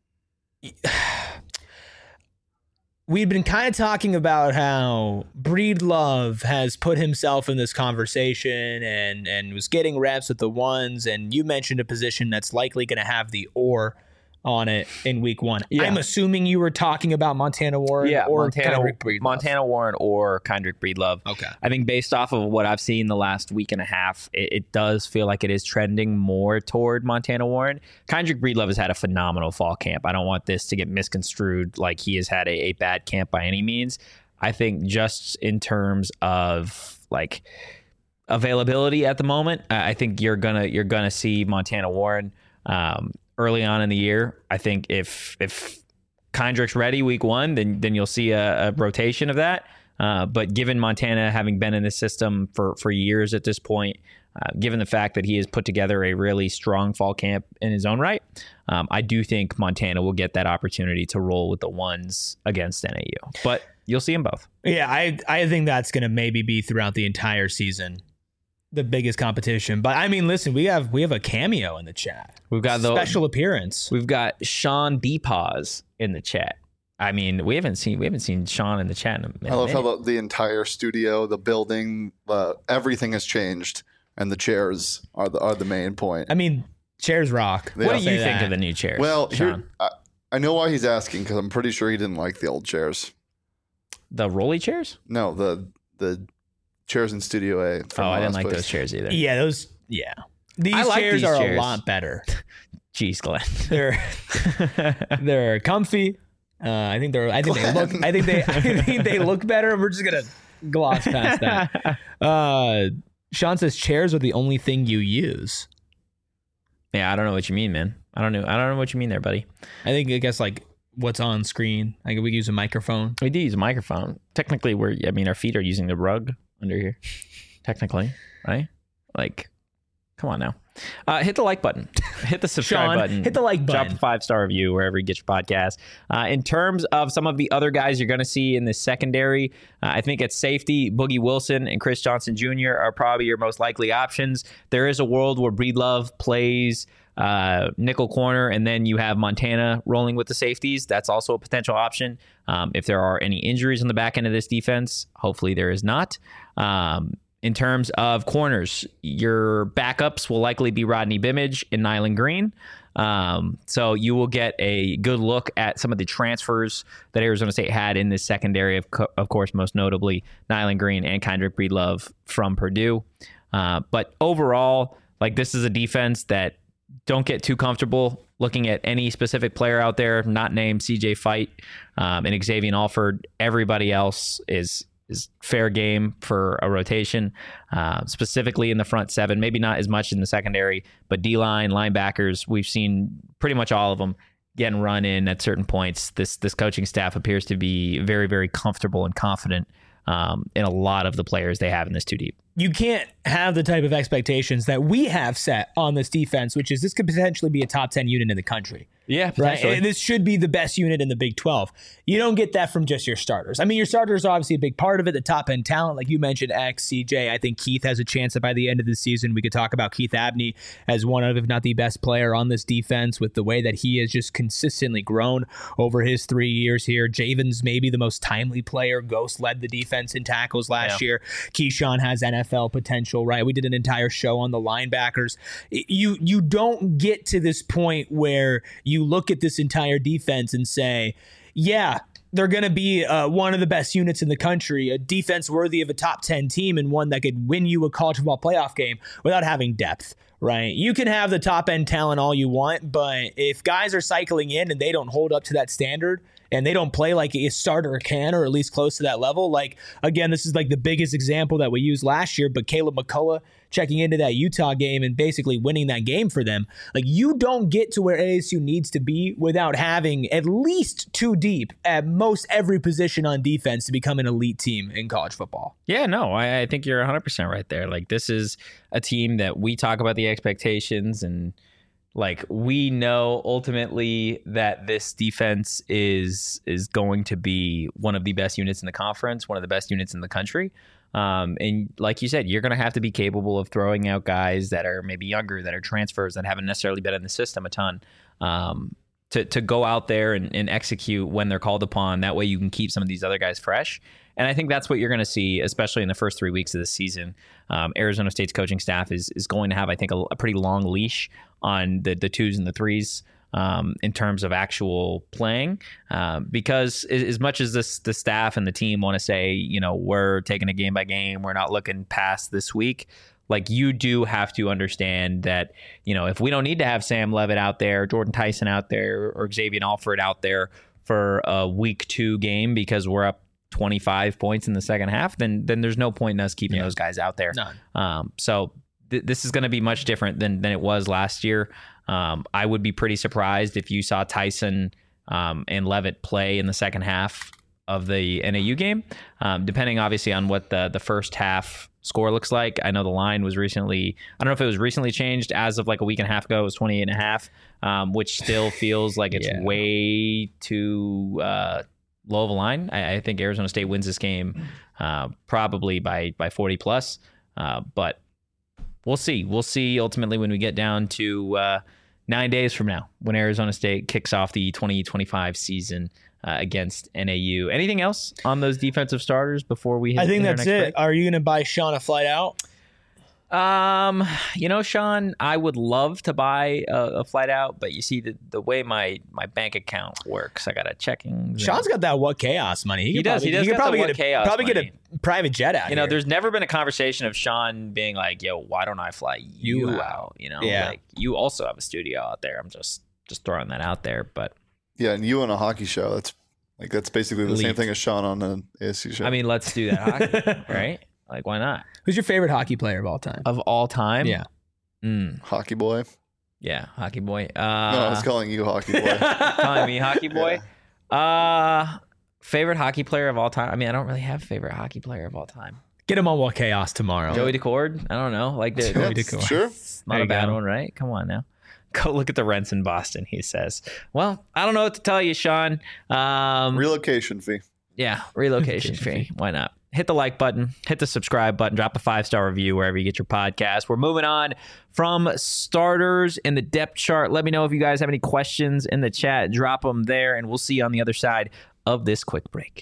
we've been kind of talking about how Breedlove has put himself in this conversation and was getting reps with the ones, and you mentioned a position that's likely going to have the or on it in week 1. Yeah. I'm assuming you were talking about Montana Warren or Montana Warren or Kendrick Breedlove. Okay. I think based off of what I've seen the last week and a half, it does feel like it is trending more toward Montana Warren. Kendrick Breedlove has had a phenomenal fall camp. I don't want this to get misconstrued like he has had a bad camp by any means. I think just in terms of like availability at the moment, I think you're gonna see Montana Warren early on in the year. I think if Kendrick's ready week 1, then you'll see a rotation of that. But given Montana having been in the system for years at this point, given the fact that he has put together a really strong fall camp in his own right, I do think Montana will get that opportunity to roll with the ones against NAU. But you'll see them both. Yeah, I think that's going to maybe be throughout the entire season the biggest competition. But I mean, listen, we have a cameo in the chat. We've got the special appearance. We've got Sean Bepaws in the chat. I mean, we haven't seen Sean in the chat in a minute. I love how the entire studio, the building, everything has changed, and the chairs are the main point. I mean, chairs rock. What do you think of the new chairs? Well, here, I know why he's asking, because I'm pretty sure he didn't like the old chairs. The rolly chairs? No, the chairs in Studio A. I didn't like those chairs either. Yeah, These chairs are a lot better. Jeez, Glenn. They're comfy. I think they look better. We're just gonna gloss past that. Sean says chairs are the only thing you use. Yeah, I don't know what you mean, man. I don't know what you mean there, buddy. I guess like what's on screen. Like we use a microphone. We do use a microphone. Technically, our feet are using the rug under here. Technically, right? Like, come on now. Hit the like button. Hit the subscribe Sean, button. hit the like button. Drop a 5-star review wherever you get your podcast. In terms of some of the other guys you're going to see in this secondary, I think at safety, Boogie Wilson and Chris Johnson Jr. are probably your most likely options. There is a world where Breedlove plays nickel corner, and then you have Montana rolling with the safeties. That's also a potential option. If there are any injuries on the back end of this defense, hopefully there is not. In terms of corners, your backups will likely be Rodney Bimage and Nyland Green. So you will get a good look at some of the transfers that Arizona State had in this secondary, of course, most notably Nyland Green and Kendrick Breedlove from Purdue. But overall, like, this is a defense that don't get too comfortable looking at any specific player out there, not named CJ Fight and Xavier Alford. Everybody else is fair game for a rotation, specifically in the front seven, maybe not as much in the secondary, but D-line, linebackers, we've seen pretty much all of them getting run in at certain points. This coaching staff appears to be very, very comfortable and confident in a lot of the players they have in this 2 deep. You can't have the type of expectations that we have set on this defense, which is this could potentially be a top 10 unit in the country. Yeah, right. And this should be the best unit in the Big 12. You don't get that from just your starters. I mean, your starters are obviously a big part of it, the top end talent, like you mentioned, X, CJ. I think Keith has a chance that by the end of the season, we could talk about Keith Abney as one of, if not the best player on this defense, with the way that he has just consistently grown over his 3 years here. Javen's maybe the most timely player. Ghost led the defense in tackles last year. Keyshawn has NFL potential, right? We did an entire show on the linebackers. You don't get to this point where you look at this entire defense and say, yeah, they're going to be one of the best units in the country, a defense worthy of a top 10 team, and one that could win you a college football playoff game without having depth, right? You can have the top end talent all you want, but if guys are cycling in and they don't hold up to that standard, and they don't play like a starter can, or at least close to that level. Like, again, this is like the biggest example that we used last year, but Caleb McCullough checking into that Utah game and basically winning that game for them. Like, you don't get to where ASU needs to be without having at least 2 deep at most every position on defense to become an elite team in college football. Yeah, no, I think you're 100% right there. Like, this is a team that we talk about the expectations, and like, we know ultimately that this defense is going to be one of the best units in the conference, one of the best units in the country. And like you said, you're going to have to be capable of throwing out guys that are maybe younger, that are transfers, that haven't necessarily been in the system a ton, to go out there and execute when they're called upon. That way you can keep some of these other guys fresh. And I think that's what you're going to see, especially in the first 3 weeks of the season. Arizona State's coaching staff is going to have, I think, a pretty long leash on the 2s and the 3s in terms of actual playing. Because as much as the staff and the team want to say, you know, we're taking it game by game, we're not looking past this week, like, you do have to understand that, you know, if we don't need to have Sam Levitt out there, Jordan Tyson out there, or Xavier Alford out there for a week 2 game because we're up 25 points in the second half, then there's no point in us keeping those guys out there. None. So this is going to be much different than it was last year. I would be pretty surprised if you saw Tyson and Levitt play in the second half of the NAU game, depending obviously on what the first half score looks like. I know the line was recently, I don't know if it was recently changed. As of like a week and a half ago, it was 28.5, which still feels like it's way too low of a line. I think Arizona State wins this game probably by 40 plus, but we'll see. We'll see ultimately when we get down to 9 days from now, when Arizona State kicks off the 2025 season against NAU. Anything else on those defensive starters before we hit? I think that's it. Break? Are you going to buy Sean a flight out? You know, Sean, I would love to buy a flight out, but you see the way my bank account works, I got a checking. Sean's got that What Chaos money. He does. He could probably get a private jet out. You know, there's never been a conversation of Sean being like, "Yo, why don't I fly you out?" You know, like, you also have a studio out there. I'm just throwing that out there, but yeah, and you on a hockey show. That's basically the same thing as Sean on an ASU show. I mean, let's do that hockey, right? Like, why not? Who's your favorite hockey player of all time? Of all time? Yeah. Hockey boy. Yeah, hockey boy. No, I was calling you hockey boy. Calling me hockey boy? Yeah. Favorite hockey player of all time? I mean, I don't really have a favorite hockey player of all time. Get him on What Chaos tomorrow. Joey Decord? I don't know. Like the Joey Decord. Sure. not a bad one, right? Come on now. Go look at the rents in Boston, he says. Well, I don't know what to tell you, Sean. Relocation fee. Yeah, relocation fee. Why not? Hit the like button, hit the subscribe button, drop a 5-star review wherever you get your podcast. We're moving on from starters in the depth chart. Let me know if you guys have any questions in the chat. Drop them there, and we'll see you on the other side of this quick break.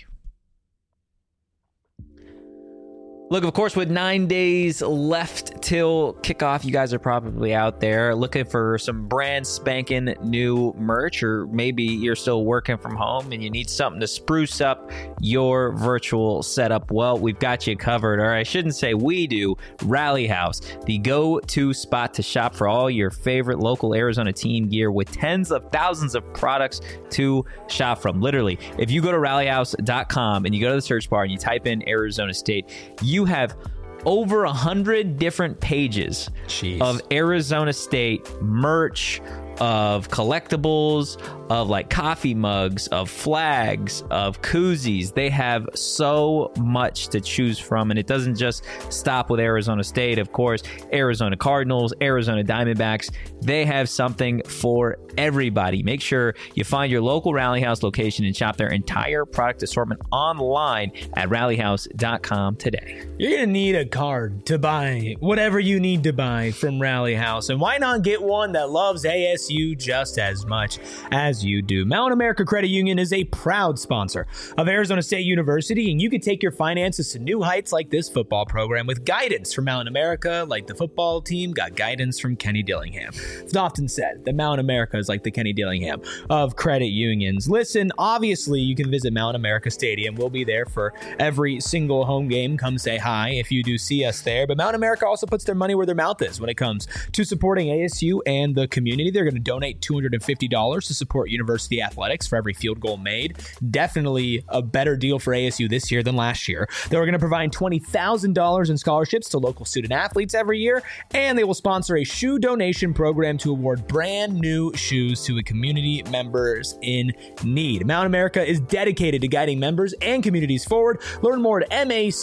Look, of course, with 9 days left till kickoff, you guys are probably out there looking for some brand spanking new merch, or maybe you're still working from home and you need something to spruce up your virtual setup. Well, we've got you covered, or I shouldn't say we do. Rally House, the go-to spot to shop for all your favorite local Arizona team gear with tens of thousands of products to shop from. Literally, if you go to rallyhouse.com and you go to the search bar and you type in Arizona State, you have over 100 different pages of Arizona State merch, of collectibles, of like coffee mugs, of flags, of koozies. They have so much to choose from, and it doesn't just stop with Arizona State. Of course, Arizona Cardinals, Arizona Diamondbacks, they have something for everybody. Make sure you find your local Rally House location and shop their entire product assortment online at rallyhouse.com today. You're going to need a card to buy whatever you need to buy from Rally House, and why not get one that loves ASU just as much as you do? Mountain America Credit Union is a proud sponsor of Arizona State University, and you can take your finances to new heights like this football program with guidance from Mountain America, like the football team got guidance from Kenny Dillingham. It's often said that Mountain America is like the Kenny Dillingham of credit unions. Listen, obviously you can visit Mountain America Stadium. We'll be there for every single home game. Come say hi if you do see us there. But Mountain America also puts their money where their mouth is when it comes to supporting ASU and the community. They're going to donate $250 to support university athletics for every field goal made. Definitely a better deal for ASU this year than last year. They were going to provide $20,000 in scholarships to local student athletes every year, and they will sponsor a shoe donation program to award brand new shoes to community members in need. Mountain America is dedicated to guiding members and communities forward. Learn more at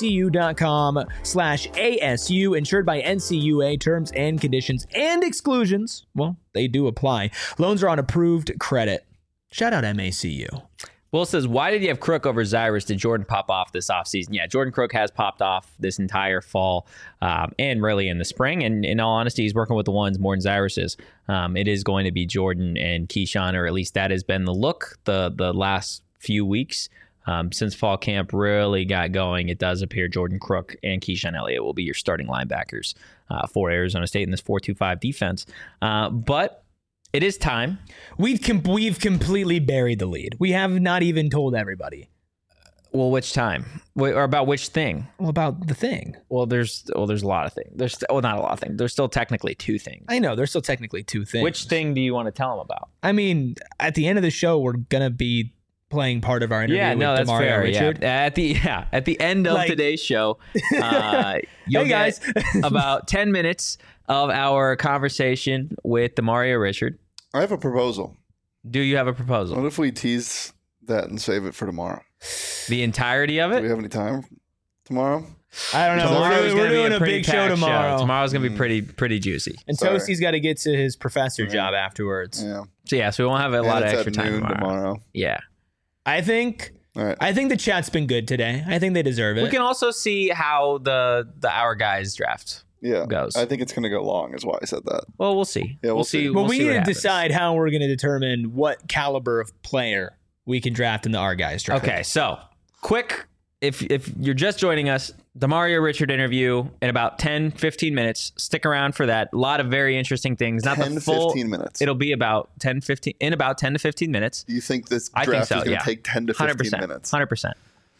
macu.com/ASU, insured by NCUA. Terms and conditions and exclusions, well, they do apply. Loans are on approved credit. Shout out MACU. Will says, why did you have Crook over Zyrus? Did Jordan pop off this offseason? Yeah, Jordan Crook has popped off this entire fall and really in the spring. And in all honesty, he's working with the ones more than Zyrus is. It is going to be Jordan and Keyshawn, or at least that has been the look the last few weeks. Since fall camp really got going, it does appear Jordan Crook and Keyshawn Elliott will be your starting linebackers for Arizona State in this 4-2-5 defense. But it is time. We've completely buried the lead. We have not even told everybody. Well, which time? Or about which thing? Well, about the thing. Well, there's a lot of things. Not a lot of things. There's still technically two things. I know. There's still technically two things. Which thing do you want to tell them about? I mean, at the end of the show, we're going to be playing part of our interview with that's Demario fair. Richard. Yeah. At the end of today's show, you'll get about 10 minutes of our conversation with Demario Richard. I have a proposal. Do you have a proposal? What if we tease that and save it for tomorrow? The entirety of it? Do we have any time tomorrow? I don't know. We're doing a big show tomorrow. Tomorrow's going to be pretty juicy. And Toasty's got to get to his professor job afterwards. Yeah. So we won't have a lot of extra time tomorrow. Yeah. I think the chat's been good today. I think they deserve it. We can also see how the Our Guys draft goes. I think it's going to go long, is why I said that. Well, we'll see. Yeah, we'll see. Well, we need to decide how we're going to determine what caliber of player we can draft in the Our Guys draft. Okay, so quick, if you're just joining us, Demario Richard interview in about 10-15 minutes. Stick around for that. A lot of very interesting things. Not 10 the full 15 minutes. It'll be about 10 to 15 minutes. Do you think this draft is going to take 10 to 15 minutes? 100%.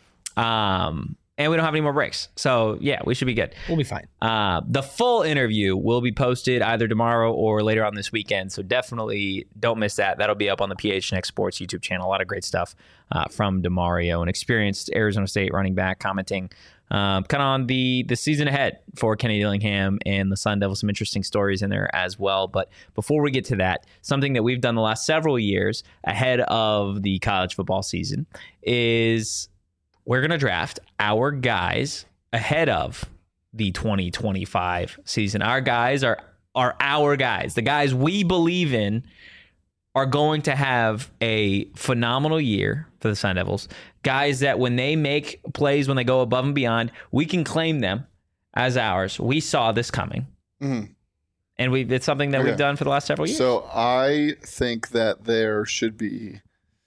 And we don't have any more breaks. So, yeah, we should be good. We'll be fine. The full interview will be posted either tomorrow or later on this weekend. So definitely don't miss that. That'll be up on the PHNX Sports YouTube channel. A lot of great stuff from Demario, an experienced Arizona State running back, commenting kind of on the season ahead for Kenny Dillingham and the Sun Devils. Some interesting stories in there as well. But before we get to that, something that we've done the last several years ahead of the college football season is we're going to draft our guys ahead of the 2025 season. Our guys are our guys. The guys we believe in are going to have a phenomenal year for the Sun Devils. Guys that when they make plays, when they go above and beyond, we can claim them as ours. We saw this coming. Mm-hmm. And it's something that we've done for the last several years. So I think that there should be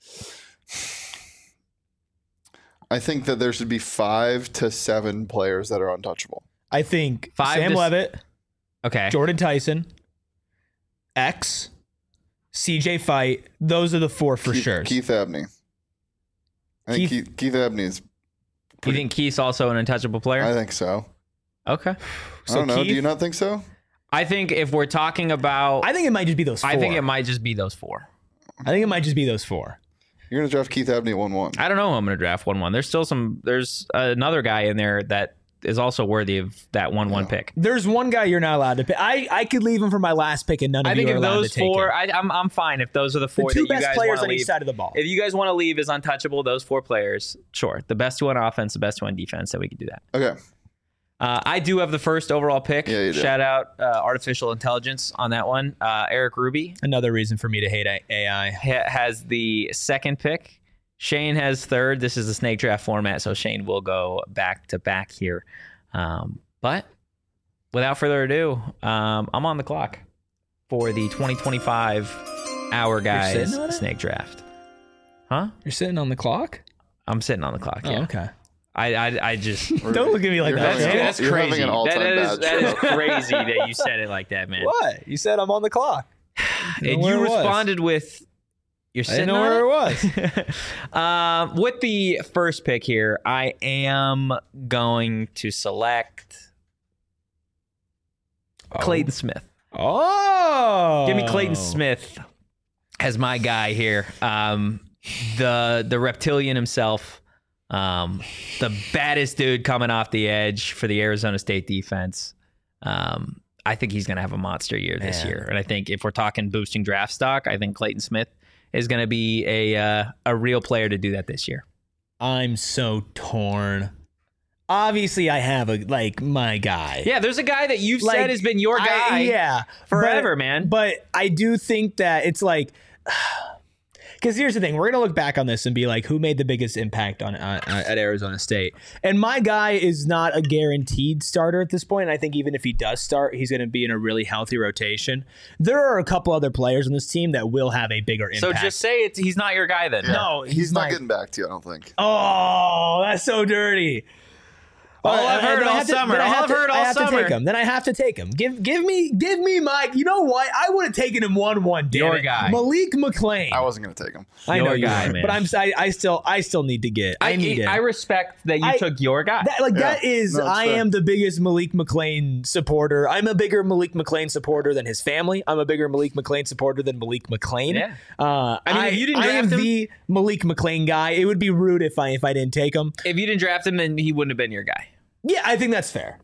5 to 7 players that are untouchable. I think Sam Levitt, Jordan Tyson, X, CJ Fight. Those are the 4 for sure. Keith Abney. I think Keith Abney is. You think Keith's also an untouchable player? I think so. Okay. I don't know. Do you not think so? I think if we're talking about... I think it might just be those 4. I think it might just be those 4. I think it might just be those 4. You're going to draft Keith Abney at 1-1. I don't know who I'm going to draft 1-1. There's another guy in there that is also worthy of that 1-1 pick. There's one guy you're not allowed to pick. I could leave him for my last pick and none of you are allowed to take him. I think if those 4, I'm fine if those are the 4 the 2 that you best guys players on leave. each side of the ball. If you guys want to leave as untouchable, those 4 players, sure. The best 2 on offense, the best 2 on defense, so we can do that. Okay. I do have the first overall pick. Yeah, you do. Shout out artificial intelligence on that one. Eric Ruby. Another reason for me to hate AI. Has the second pick. Shane has third. This is the snake draft format, so Shane will go back to back here. But without further ado, I'm on the clock for the 2025 Our Guys snake draft. Huh? You're sitting on the clock? I'm sitting on the clock, yeah. Oh, okay. I just don't look at me like that. That's crazy. That is crazy that you said it like that, man. What? You said I'm on the clock. And you responded with you're sitting on where it was. With the first pick here, I am going to select Clayton Smith. Oh. Give me Clayton Smith as my guy here. The reptilian himself. The baddest dude coming off the edge for the Arizona State defense. I think he's going to have a monster year this year. And I think if we're talking boosting draft stock, I think Clayton Smith is going to be a real player to do that this year. I'm so torn. Obviously, I have my guy. Yeah, there's a guy that you've said has been your guy forever, man. But I do think that it's because here's the thing. We're going to look back on this and be like, who made the biggest impact at Arizona State? And my guy is not a guaranteed starter at this point. I think even if he does start, he's going to be in a really healthy rotation. There are a couple other players on this team that will have a bigger impact. So just say he's not your guy then. Yeah. No, he's not getting back to you, I don't think. Oh, that's so dirty. I've heard all summer. I have to take him. Then I have to take him. Give me my. You know what? I would have taken him 1-1. Your guy, Malik McClain. I wasn't going to take him. I know your guy, man. But I still need to get. I need it. I respect that you took your guy. That is. I am the biggest Malik McClain supporter. I'm a bigger Malik McClain supporter than his family. I'm a bigger Malik McClain supporter than Malik McClain. Yeah. If you didn't draft him, the Malik McClain guy. It would be rude if I didn't take him. If you didn't draft him, then he wouldn't have been your guy. Yeah, I think that's fair.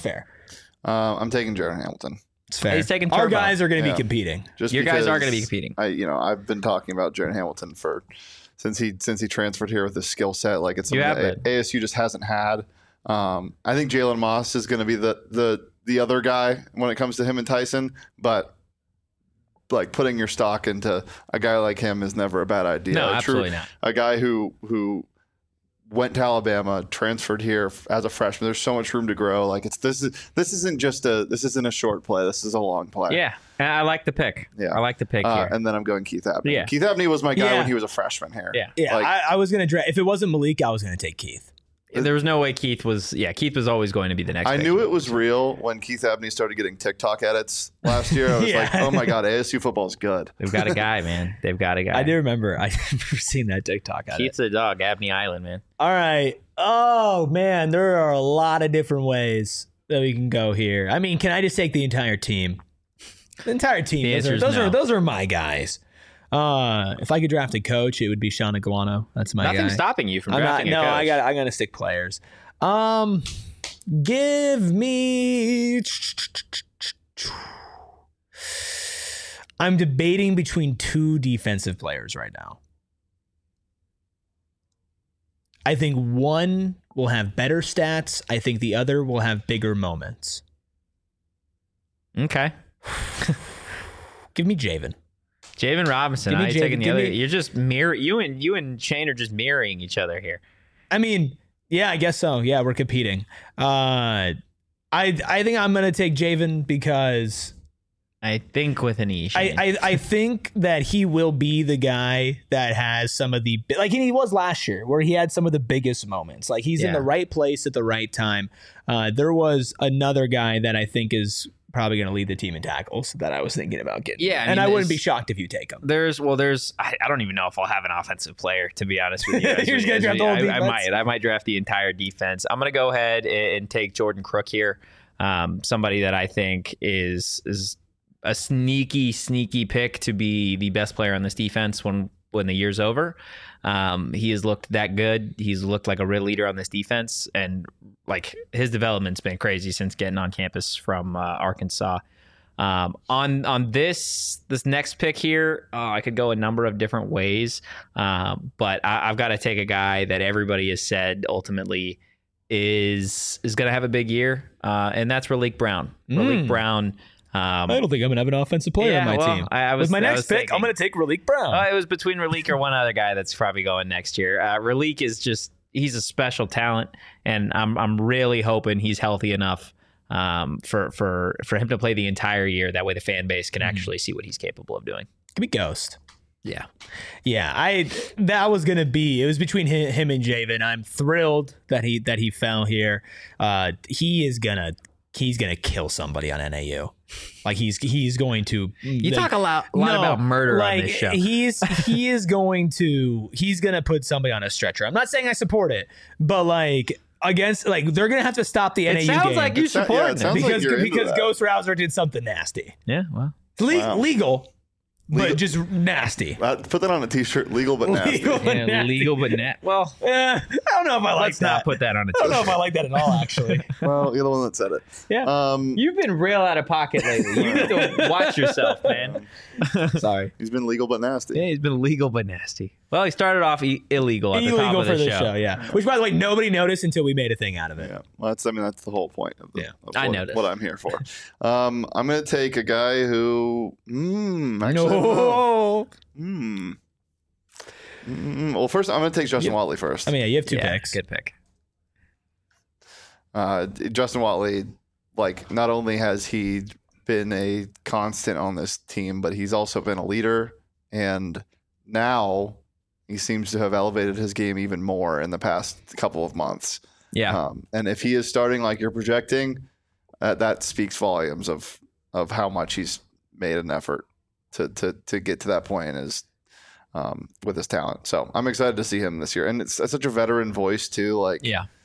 I'm taking Jaron Hamilton. It's fair. He's taking Our guys are going to be competing. Your guys are going to be competing. I've been talking about Jaron Hamilton since he transferred here with his skill set. Like it's something that ASU just hasn't had. I think Jalen Moss is going to be the other guy when it comes to him and Tyson, but like putting your stock into a guy like him is never a bad idea. No, absolutely not. A guy who went to Alabama, transferred here as a freshman. There's so much room to grow. Like this isn't a short play. This is a long play. Yeah, I like the pick. Yeah, I like the pick here. And then I'm going Keith Abney. Yeah. Keith Abney was my guy when he was a freshman here. Yeah. I was gonna draft. If it wasn't Malik, I was gonna take Keith. There was no way Keith was always going to be the next. I knew it was real when Keith Abney started getting TikTok edits last year. I was like, oh my God, ASU football is good. They've got a guy, man. They've got a guy. I do remember. I've never seen that TikTok edit. Keith's a dog, Abney Island, man. All right. Oh man, there are a lot of different ways that we can go here. I mean, can I just take the entire team? The entire team. Those are my guys. If I could draft a coach, it would be Sean Iguano. That's my guy. Nothing's stopping you from drafting a coach. I gotta stick players. Give me. I'm debating between 2 defensive players right now. I think one will have better stats. I think the other will have bigger moments. Okay. Give me Javen. Javen Robinson. I'm taking the other. You're just you and Shane are just mirroring each other here. I mean, yeah, I guess so. Yeah, we're competing. I think I'm gonna take Javen because I think with an E. I think that he will be the guy that has some of the like he was last year, where he had some of the biggest moments. Like he's in the right place at the right time. There was another guy that I think is probably going to lead the team in tackles that I was thinking about getting. Yeah, and I wouldn't be shocked if you take him. There's I don't even know if I'll have an offensive player, to be honest with you. You're just going to draft the whole defense? I might draft the entire defense. I'm going to go ahead and take Jordan Crook here. Somebody that I think is a sneaky pick to be the best player on this defense when the year's over. He has looked that good. He's looked like a real leader on this defense, and like his development's been crazy since getting on campus from Arkansas. On this next pick here, I could go a number of different ways, but I've got to take a guy that everybody has said ultimately is going to have a big year, and that's Raleek Brown. Raleek Brown. I don't think I'm going to have an offensive player on my team. With my next pick, I'm going to take Raleek Brown. It was between Raleek or one other guy that's probably going next year. Raleek is he's a special talent, and I'm really hoping he's healthy enough for him to play the entire year. That way the fan base can actually see what he's capable of doing. Give me Ghost. Yeah. That was going to be, it was between him and Javen. I'm thrilled that he fell here. He's going to kill somebody on NAU. Like he's going to. You talk a lot about murder on this show. He's going to put somebody on a stretcher. I'm not saying I support it, but like against they're going to have to stop the NAU game. It sounds like you support it because Ghost Rouser did something nasty. Yeah, well, legal. But just nasty. Put that on a t-shirt. Legal but nasty. Legal but nasty. Well, I don't know if I like let's that. not put that on a t-shirt. I don't know if I like that at all, actually. Well, you're the one that said it. Yeah. You've been real out of pocket lately. You need to watch yourself, man. Sorry. He's been legal but nasty. Yeah, he's been legal but nasty. Well, he started off illegal at the top of the show. Yeah. Which, by the way, nobody noticed until we made a thing out of it. Yeah. Well, that's the whole point of what I'm here for. I'm going to take a guy who well, first I'm going to take Justin Watley first. I mean, you have two picks. Good pick. Justin Watley, like, not only has he been a constant on this team, but he's also been a leader, and now he seems to have elevated his game even more in the past couple of months. Yeah. And if he is starting like you're projecting, that speaks volumes of how much he's made an effort to get to that point with his talent. So I'm excited to see him this year. And it's such a veteran voice too. Like,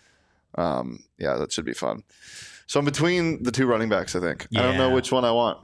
that should be fun. So I'm between the two running backs, I think. I don't know which one I want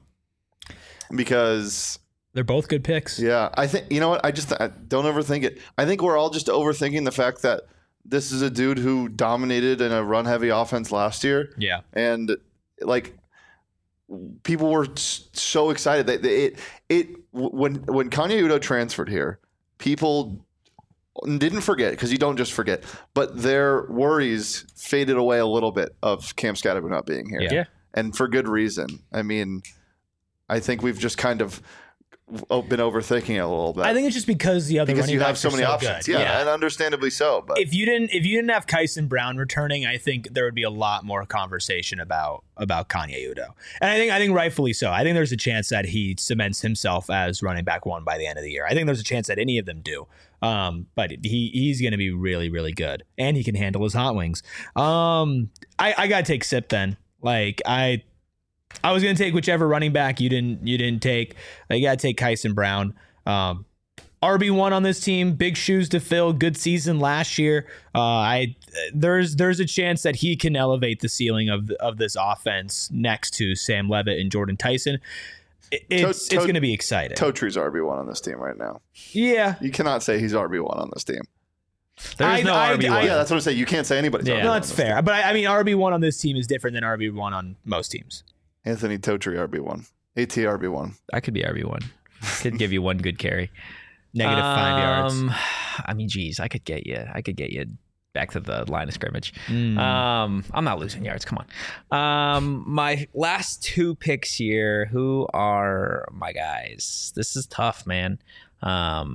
because they're both good picks. Yeah. I think, you know what? I don't overthink it. I think we're all just overthinking the fact that this is a dude who dominated in a run heavy offense last year. Yeah. And like, people were so excited that when Kanye Udoh transferred here, people didn't forget, because you don't just forget, but their worries faded away a little bit of Cam Scattergood not being here. Yeah. And for good reason. I mean, I think we've just kind of been overthinking it a little bit. I think it's just because the other running backs have so many options. Yeah, and understandably so. But if you didn't have Kyson Brown returning, I think there would be a lot more conversation about Kanye Udoh, and I think rightfully so. I think there's a chance that he cements himself as running back one by the end of the year. I think there's a chance that any of them do. But he's going to be really, really good, and he can handle his hot wings. I gotta take Sip then. Like I was going to take whichever running back you didn't take. You got to take Kyson Brown. RB1 on this team, big shoes to fill, good season last year. There's a chance that he can elevate the ceiling of this offense next to Sam Levitt and Jordan Tyson. It's going to be exciting. Totre's RB1 on this team right now. Yeah. You cannot say he's RB1 on this team. There's no RB1. Yeah, that's what I'm saying. You can't say anybody's RB1. No, that's fair. But I mean, RB1 on this team is different than RB1 on most teams. Anthony Totre RB1. AT RB1. I could be RB1. Could give you one good carry. -5 yards. I mean, geez, I could get you back to the line of scrimmage. I'm not losing yards. Come on. My last 2 picks here. Who are my guys? This is tough, man. God.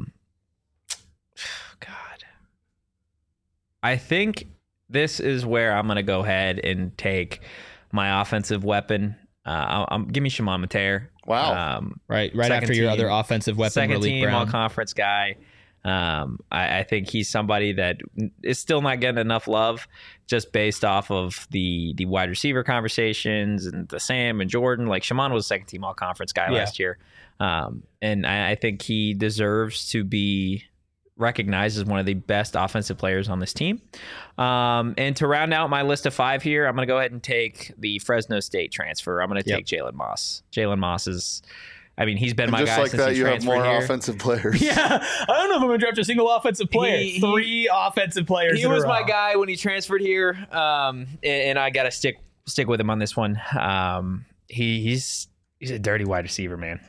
I think this is where I'm going to go ahead and take my offensive weapon. Give me Shimon Mateer. Wow. Right after your other offensive weapon, second Malik team Brown. all-conference guy. I think he's somebody that is still not getting enough love just based off of the wide receiver conversations and the Sam and Jordan. Like Shimon was a second team all-conference guy last year. And I think he deserves to be recognized as one of the best offensive players on this team. And to round out my list of 5 here, I'm going to go ahead and take the Fresno State transfer. I'm going to take Jalen Moss. Jalen Moss is, I mean, he's been my guy since he transferred here. Just like that, you have more offensive players. Yeah, I don't know if I'm going to draft a single offensive player. 3 offensive players. He was my guy when he transferred here, and I got to stick with him on this one. He's a dirty wide receiver, man.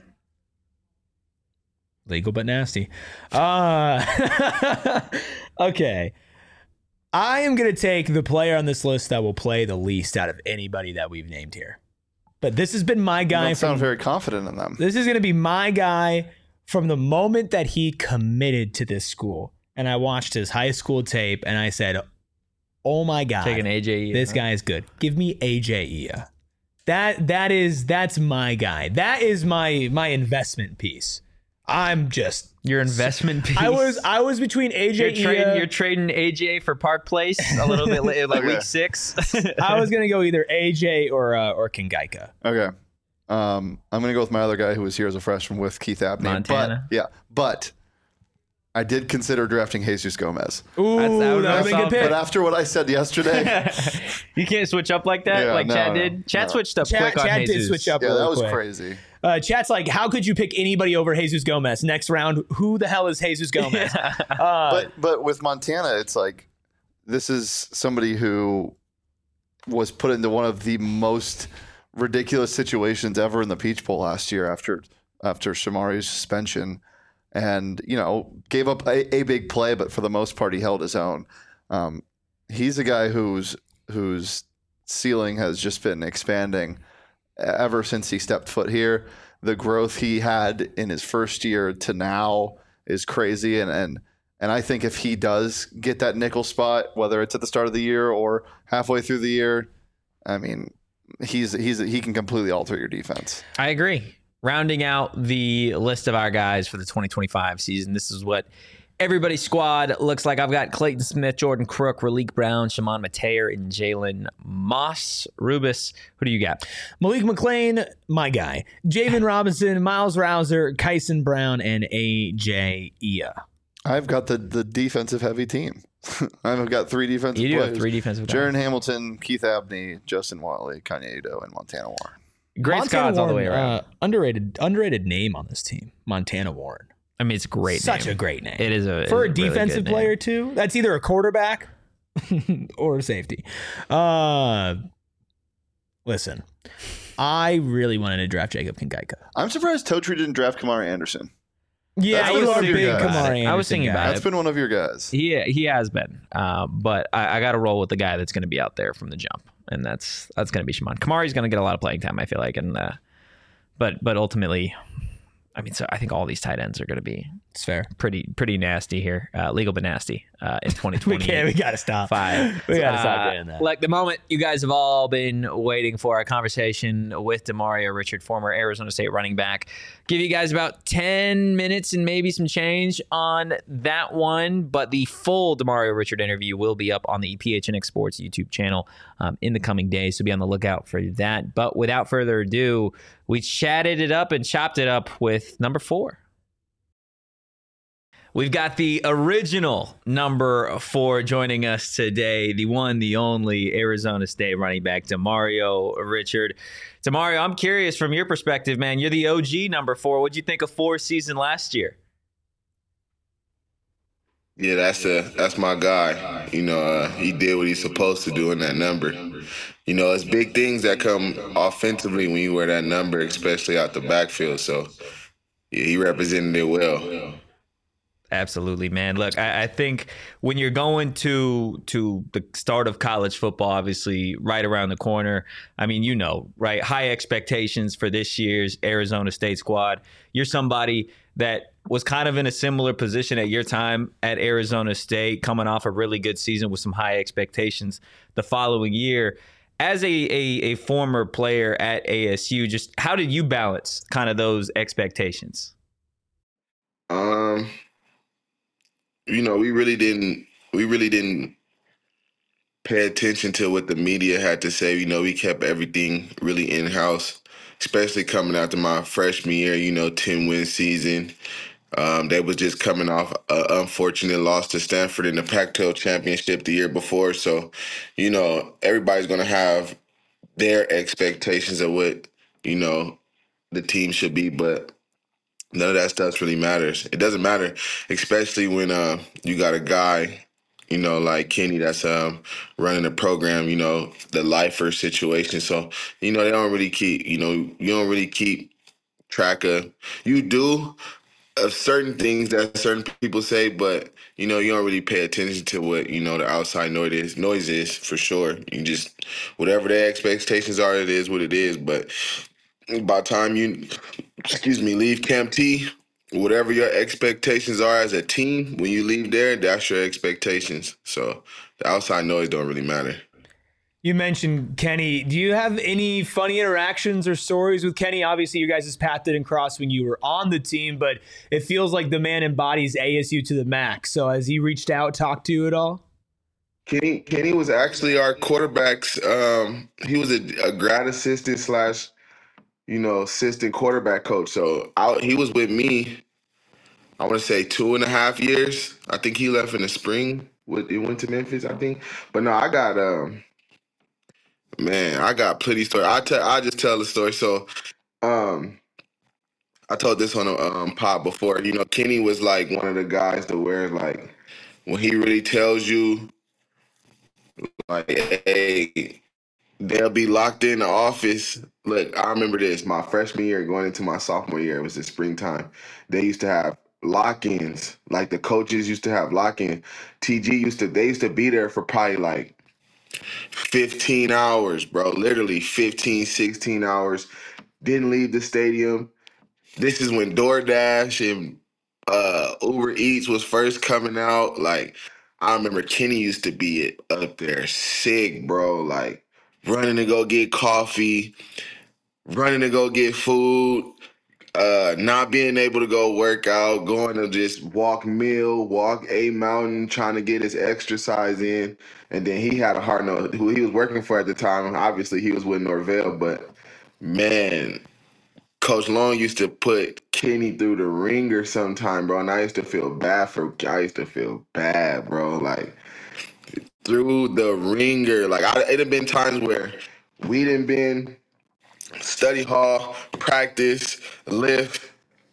Legal but nasty. Okay. I am going to take the player on this list that will play the least out of anybody that we've named here. But this has been my guy. You don't sound very confident in them. This is going to be my guy from the moment that he committed to this school. And I watched his high school tape and I said, oh my God. Taking AJ. This guy is good. Give me AJ Ia. That's my guy. That is my investment piece. I'm just your investment piece. I was between AJ. You're trading AJ for Park Place a little bit later, like week 6. I was gonna go either AJ or Kingaika. Okay, I'm gonna go with my other guy who was here as a freshman with Keith Abney. Montana. But I did consider drafting Jesus Gomez. Ooh, that would have been a good pick. But after what I said yesterday, you can't switch up like that, Chad did. Chad switched up quick on Chad Jesus. Did switch up. Yeah, that was quick. crazy. Chat's like, how could you pick anybody over Jesus Gomez? Next round, who the hell is Jesus Gomez? But with Montana, it's like this is somebody who was put into one of the most ridiculous situations ever in the Peach Bowl last year after Shamari's suspension, and gave up a big play, but for the most part he held his own. He's a guy whose ceiling has just been expanding ever since he stepped foot here. The growth he had in his first year to now is crazy. And I think if he does get that nickel spot, whether it's at the start of the year or halfway through the year, I mean, he can completely alter your defense. I agree. Rounding out the list of our guys for the 2025 season, this is what everybody's squad looks like. I've got Clayton Smith, Jordan Crook, Malik Brown, Shimon Mateer, and Jalen Moss. Rubus, who do you got? Malik McClain, my guy. Javen Robinson, Miles Rouser, Kyson Brown, and AJ Ia. I've got the defensive heavy team. I've got 3 defensive players. You do have 3 defensive guys. Jaron Hamilton, Keith Abney, Justin Watley, Kanye Ito, and Montana Warren. Great squads all the way around. Underrated name on this team, Montana Warren. I mean, it's a great Such name. a great name. It is for a defensive player, too. That's either a quarterback or a safety. Listen, I really wanted to draft Jacob Kingaika. I'm surprised Totri didn't draft Kamari Anderson. Yeah, you are a big Kamari Anderson. I was thinking about it. That's been one of your guys. He has been. But I got to roll with the guy that's going to be out there from the jump, and that's going to be Shimon. Kamari's going to get a lot of playing time, I feel like, and but ultimately, I mean, so I think all these tight ends are going to be it's fair, pretty nasty here, legal but nasty in 2020. we got to stop. We got to stop doing that. Like the moment you guys have all been waiting for, a conversation with Demario Richard, former Arizona State running back. Give you guys about 10 minutes and maybe some change on that one, but the full Demario Richard interview will be up on the PHNX Sports YouTube channel in the coming days, so be on the lookout for that. But without further ado, we chatted it up and chopped it up with number 4. We've got the original number 4 joining us today, the one, the only Arizona State running back, Demario Richard. Demario, I'm curious from your perspective, man. You're the OG number 4. What'd you think of 4's season last year? Yeah, that's my guy. He did what he's supposed to do in that number. It's big things that come offensively when you wear that number, especially out the backfield. So, yeah, he represented it well. Absolutely, man. Look, I think when you're going to the start of college football, obviously right around the corner, I mean, you know, right? High expectations for this year's Arizona State squad. You're somebody that was kind of in a similar position at your time at Arizona State, coming off a really good season with some high expectations the following year. As a former player at ASU, just how did you balance kind of those expectations? You know, we really didn't pay attention to what the media had to say. You know, we kept everything really in-house, especially coming after my freshman year, you know, 10-win season. They was just coming off an unfortunate loss to Stanford in the Pac-12 championship the year before. So, you know, everybody's going to have their expectations of what, you know, the team should be, but none of that stuff really matters. It doesn't matter, especially when you got a guy, you know, like Kenny that's running the program, you know, the lifer situation. So, you know, they don't really keep, you know, you don't really keep track of, you do of certain things that certain people say, but, you know, you don't really pay attention to what, you know, the outside noise is for sure. You just, whatever their expectations are, it is what it is. But by the time you, leave Camp T, whatever your expectations are as a team, when you leave there, that's your expectations. So the outside noise don't really matter. You mentioned Kenny. Do you have any funny interactions or stories with Kenny? Obviously, you guys' path didn't cross when you were on the team, but it feels like the man embodies ASU to the max. So has he reached out, talked to you at all? Kenny was actually our quarterback's. He was a grad assistant / you know, assistant quarterback coach. So he was with me, I want to say 2.5 years. I think he left in the spring. He went to Memphis, I think. But no, I got I got plenty story. I just tell the story. So I told this on a pod before. You know, Kenny was like one of the guys to where like when he really tells you like, hey, they'll be locked in the office. Look, I remember this. My freshman year going into my sophomore year, it was the springtime. They used to have lock-ins. Like the coaches used to have lock-in. They used to be there for probably like 15 hours, bro. Literally 15, 16 hours. Didn't leave the stadium. This is when DoorDash and Uber Eats was first coming out. Like, I remember Kenny used to be up there sick, bro. Like, running to go get coffee, running to go get food, not being able to go work out, going to just walk a mountain, trying to get his exercise in. And then he had a hard note who he was working for at the time. Obviously, he was with Norvell, but man, Coach Long used to put Kenny through the ringer sometime, bro. And I used to feel bad, bro. Like, through the ringer. Like, it had been times where we didn't been study hall, practice, lift,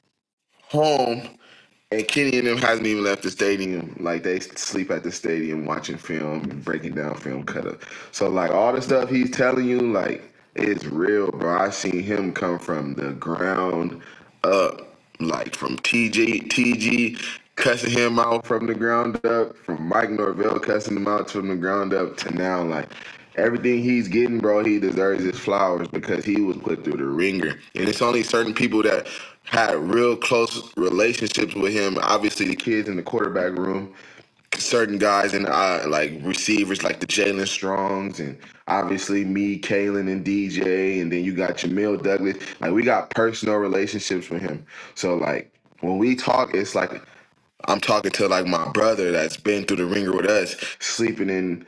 home, and Kenny and them hasn't even left the stadium. Like, they sleep at the stadium watching film and breaking down film cut up. So, like, all the stuff he's telling you, like, it's real, bro. I seen him come from the ground up, like from TG cussing him out from the ground up, from Mike Norvell cussing him out from the ground up to now, like, everything he's getting, bro, he deserves his flowers because he was put through the ringer. And it's only certain people that had real close relationships with him. Obviously, the kids in the quarterback room, certain guys and like receivers like the Jalen Strongs, and obviously me, Kalen, and DJ, and then you got Jamil Douglas. Like, we got personal relationships with him. So like when we talk, it's like I'm talking to like my brother that's been through the ringer with us, sleeping in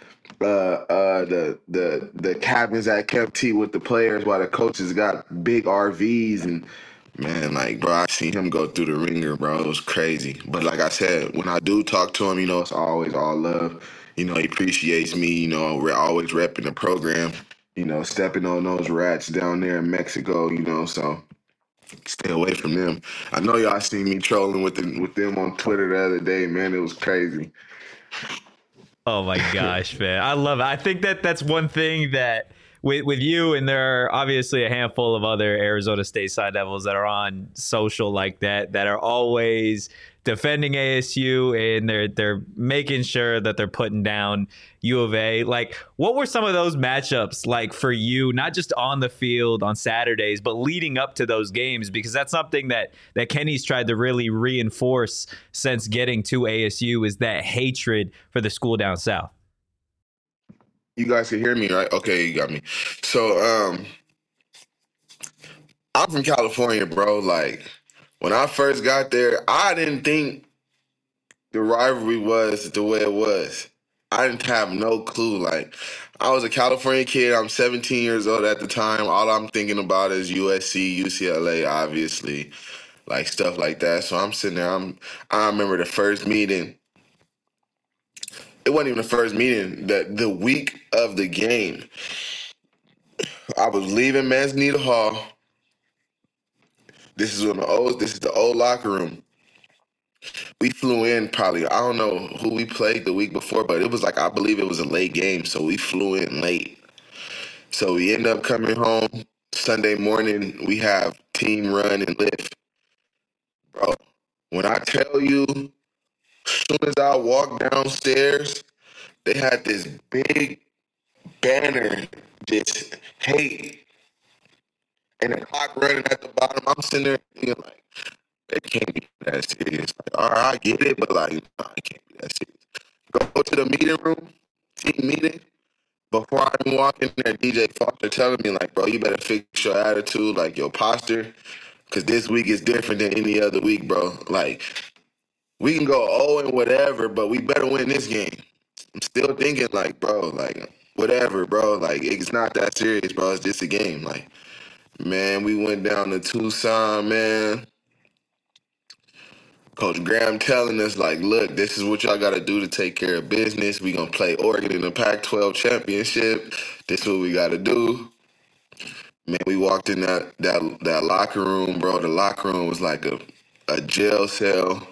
the cabins at Camp T with the players while the coaches got big RVs. And man, like, bro, I seen him go through the ringer, bro. It was crazy. But like I said, when I do talk to him, you know, it's always all love. You know, he appreciates me. You know, we're always repping the program. You know, stepping on those rats down there in Mexico. You know, so stay away from them. I know y'all seen me trolling with them on Twitter the other day, man. It was crazy. Oh my gosh, man. I love it. I think that's one thing that with you, and there are obviously a handful of other Arizona State Sun Devils that are on social like that are always defending ASU, and they're making sure that they're putting down U of A. Like, what were some of those matchups like for you, not just on the field on Saturdays, but leading up to those games? Because that's something that Kenny's tried to really reinforce since getting to ASU, is that hatred for the school down south. You guys can hear me, right? Okay, you got me. So, I'm from California, bro. Like, when I first got there, I didn't think the rivalry was the way it was. I didn't have no clue. Like, I was a California kid. I'm 17 years old at the time. All I'm thinking about is USC, UCLA, obviously, like stuff like that. So I'm sitting there. I remember the first meeting. It wasn't even the first meeting. The week of the game, I was leaving Manzanita Hall. This is the old locker room. We flew in probably, I don't know who we played the week before, but it was like, I believe it was a late game, so we flew in late. So we end up coming home Sunday morning. We have team run and lift. Bro, when I tell you, as soon as I walked downstairs, they had this big banner, just hate, and the clock running at the bottom. I'm sitting there being like, it can't be that serious. Like, all right, I get it, but like, nah, it can't be that serious. Go to the meeting room, team meeting. Before I even walk in there, DJ Foster telling me, like, bro, you better fix your attitude, like your posture, because this week is different than any other week, bro. Like, we can go 0 and whatever, but we better win this game. I'm still thinking, like, bro, like, whatever, bro. Like, it's not that serious, bro. It's just a game. Like, man, we went down to Tucson, man. Coach Graham telling us, like, look, this is what y'all got to do to take care of business. We going to play Oregon in the Pac-12 championship. This is what we got to do. Man, we walked in that locker room, bro. The locker room was like a jail cell.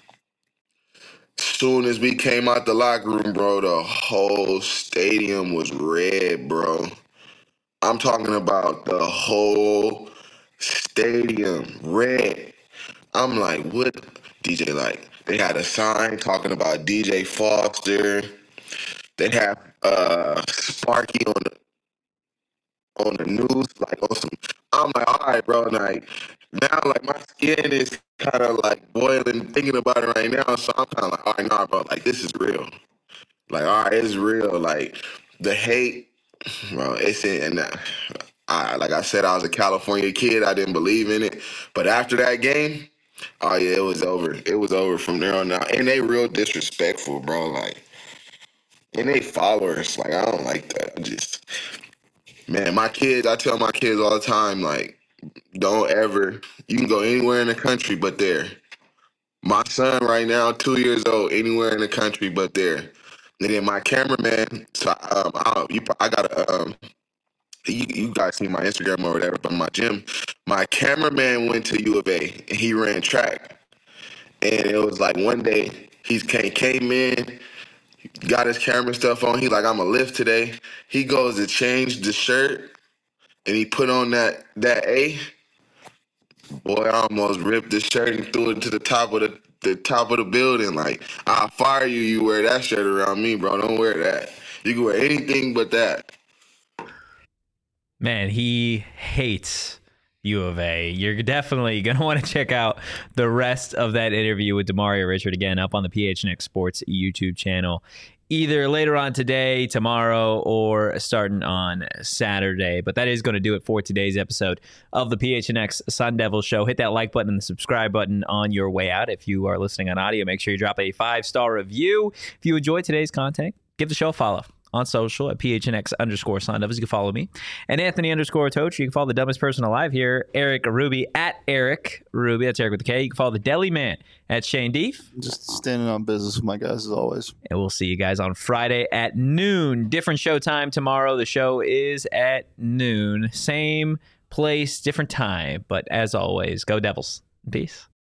Soon as we came out the locker room, bro, the whole stadium was red, bro. I'm talking about the whole stadium red. I'm like, what? DJ, like, they had a sign talking about DJ Foster. They have Sparky on the news, like on some. I'm like, all right, bro. Like, now, like, my skin is kind of like boiling thinking about it right now. So I'm kind of like, all right, nah, bro. Like, this is real. Like, all right, it's real. Like, the hate, bro. It's in. And like I said, I was a California kid. I didn't believe in it. But after that game. Oh, yeah, it was over. It was over from there on out. And they real disrespectful, bro. Like, and they followers. Like, I don't like that. Man, my kids, I tell my kids all the time, like, don't ever, you can go anywhere in the country but there. My son right now, 2 years old, anywhere in the country but there. And then my cameraman, so I got a, you guys see my Instagram or whatever, but my gym, my cameraman went to U of A and he ran track. And it was like one day he came in, got his camera stuff on. He like, I'm going to lift today. He goes to change the shirt and he put on that A. Boy, I almost ripped the shirt and threw it to the top of the top of the building. Like, I'll fire you. You wear that shirt around me, bro. Don't wear that. You can wear anything but that. Man, he hates U of A. You're definitely going to want to check out the rest of that interview with Demario Richard, again, up on the PHNX Sports YouTube channel, either later on today, tomorrow, or starting on Saturday. But that is going to do it for today's episode of the PHNX Sun Devil Show. Hit that like button and the subscribe button on your way out. If you are listening on audio, make sure you drop a 5-star review. If you enjoyed today's content, give the show a follow on social at PHNX_Sun Devils. You can follow me. And Anthony_Toach. You can follow the dumbest person alive here, Eric Ruby, at Eric Ruby. That's Eric with a K. You can follow the Deli Man at Shane Deef. Just standing on business with my guys as always. And we'll see you guys on Friday at noon. Different show time tomorrow. The show is at noon. Same place, different time. But as always, go Devils. Peace.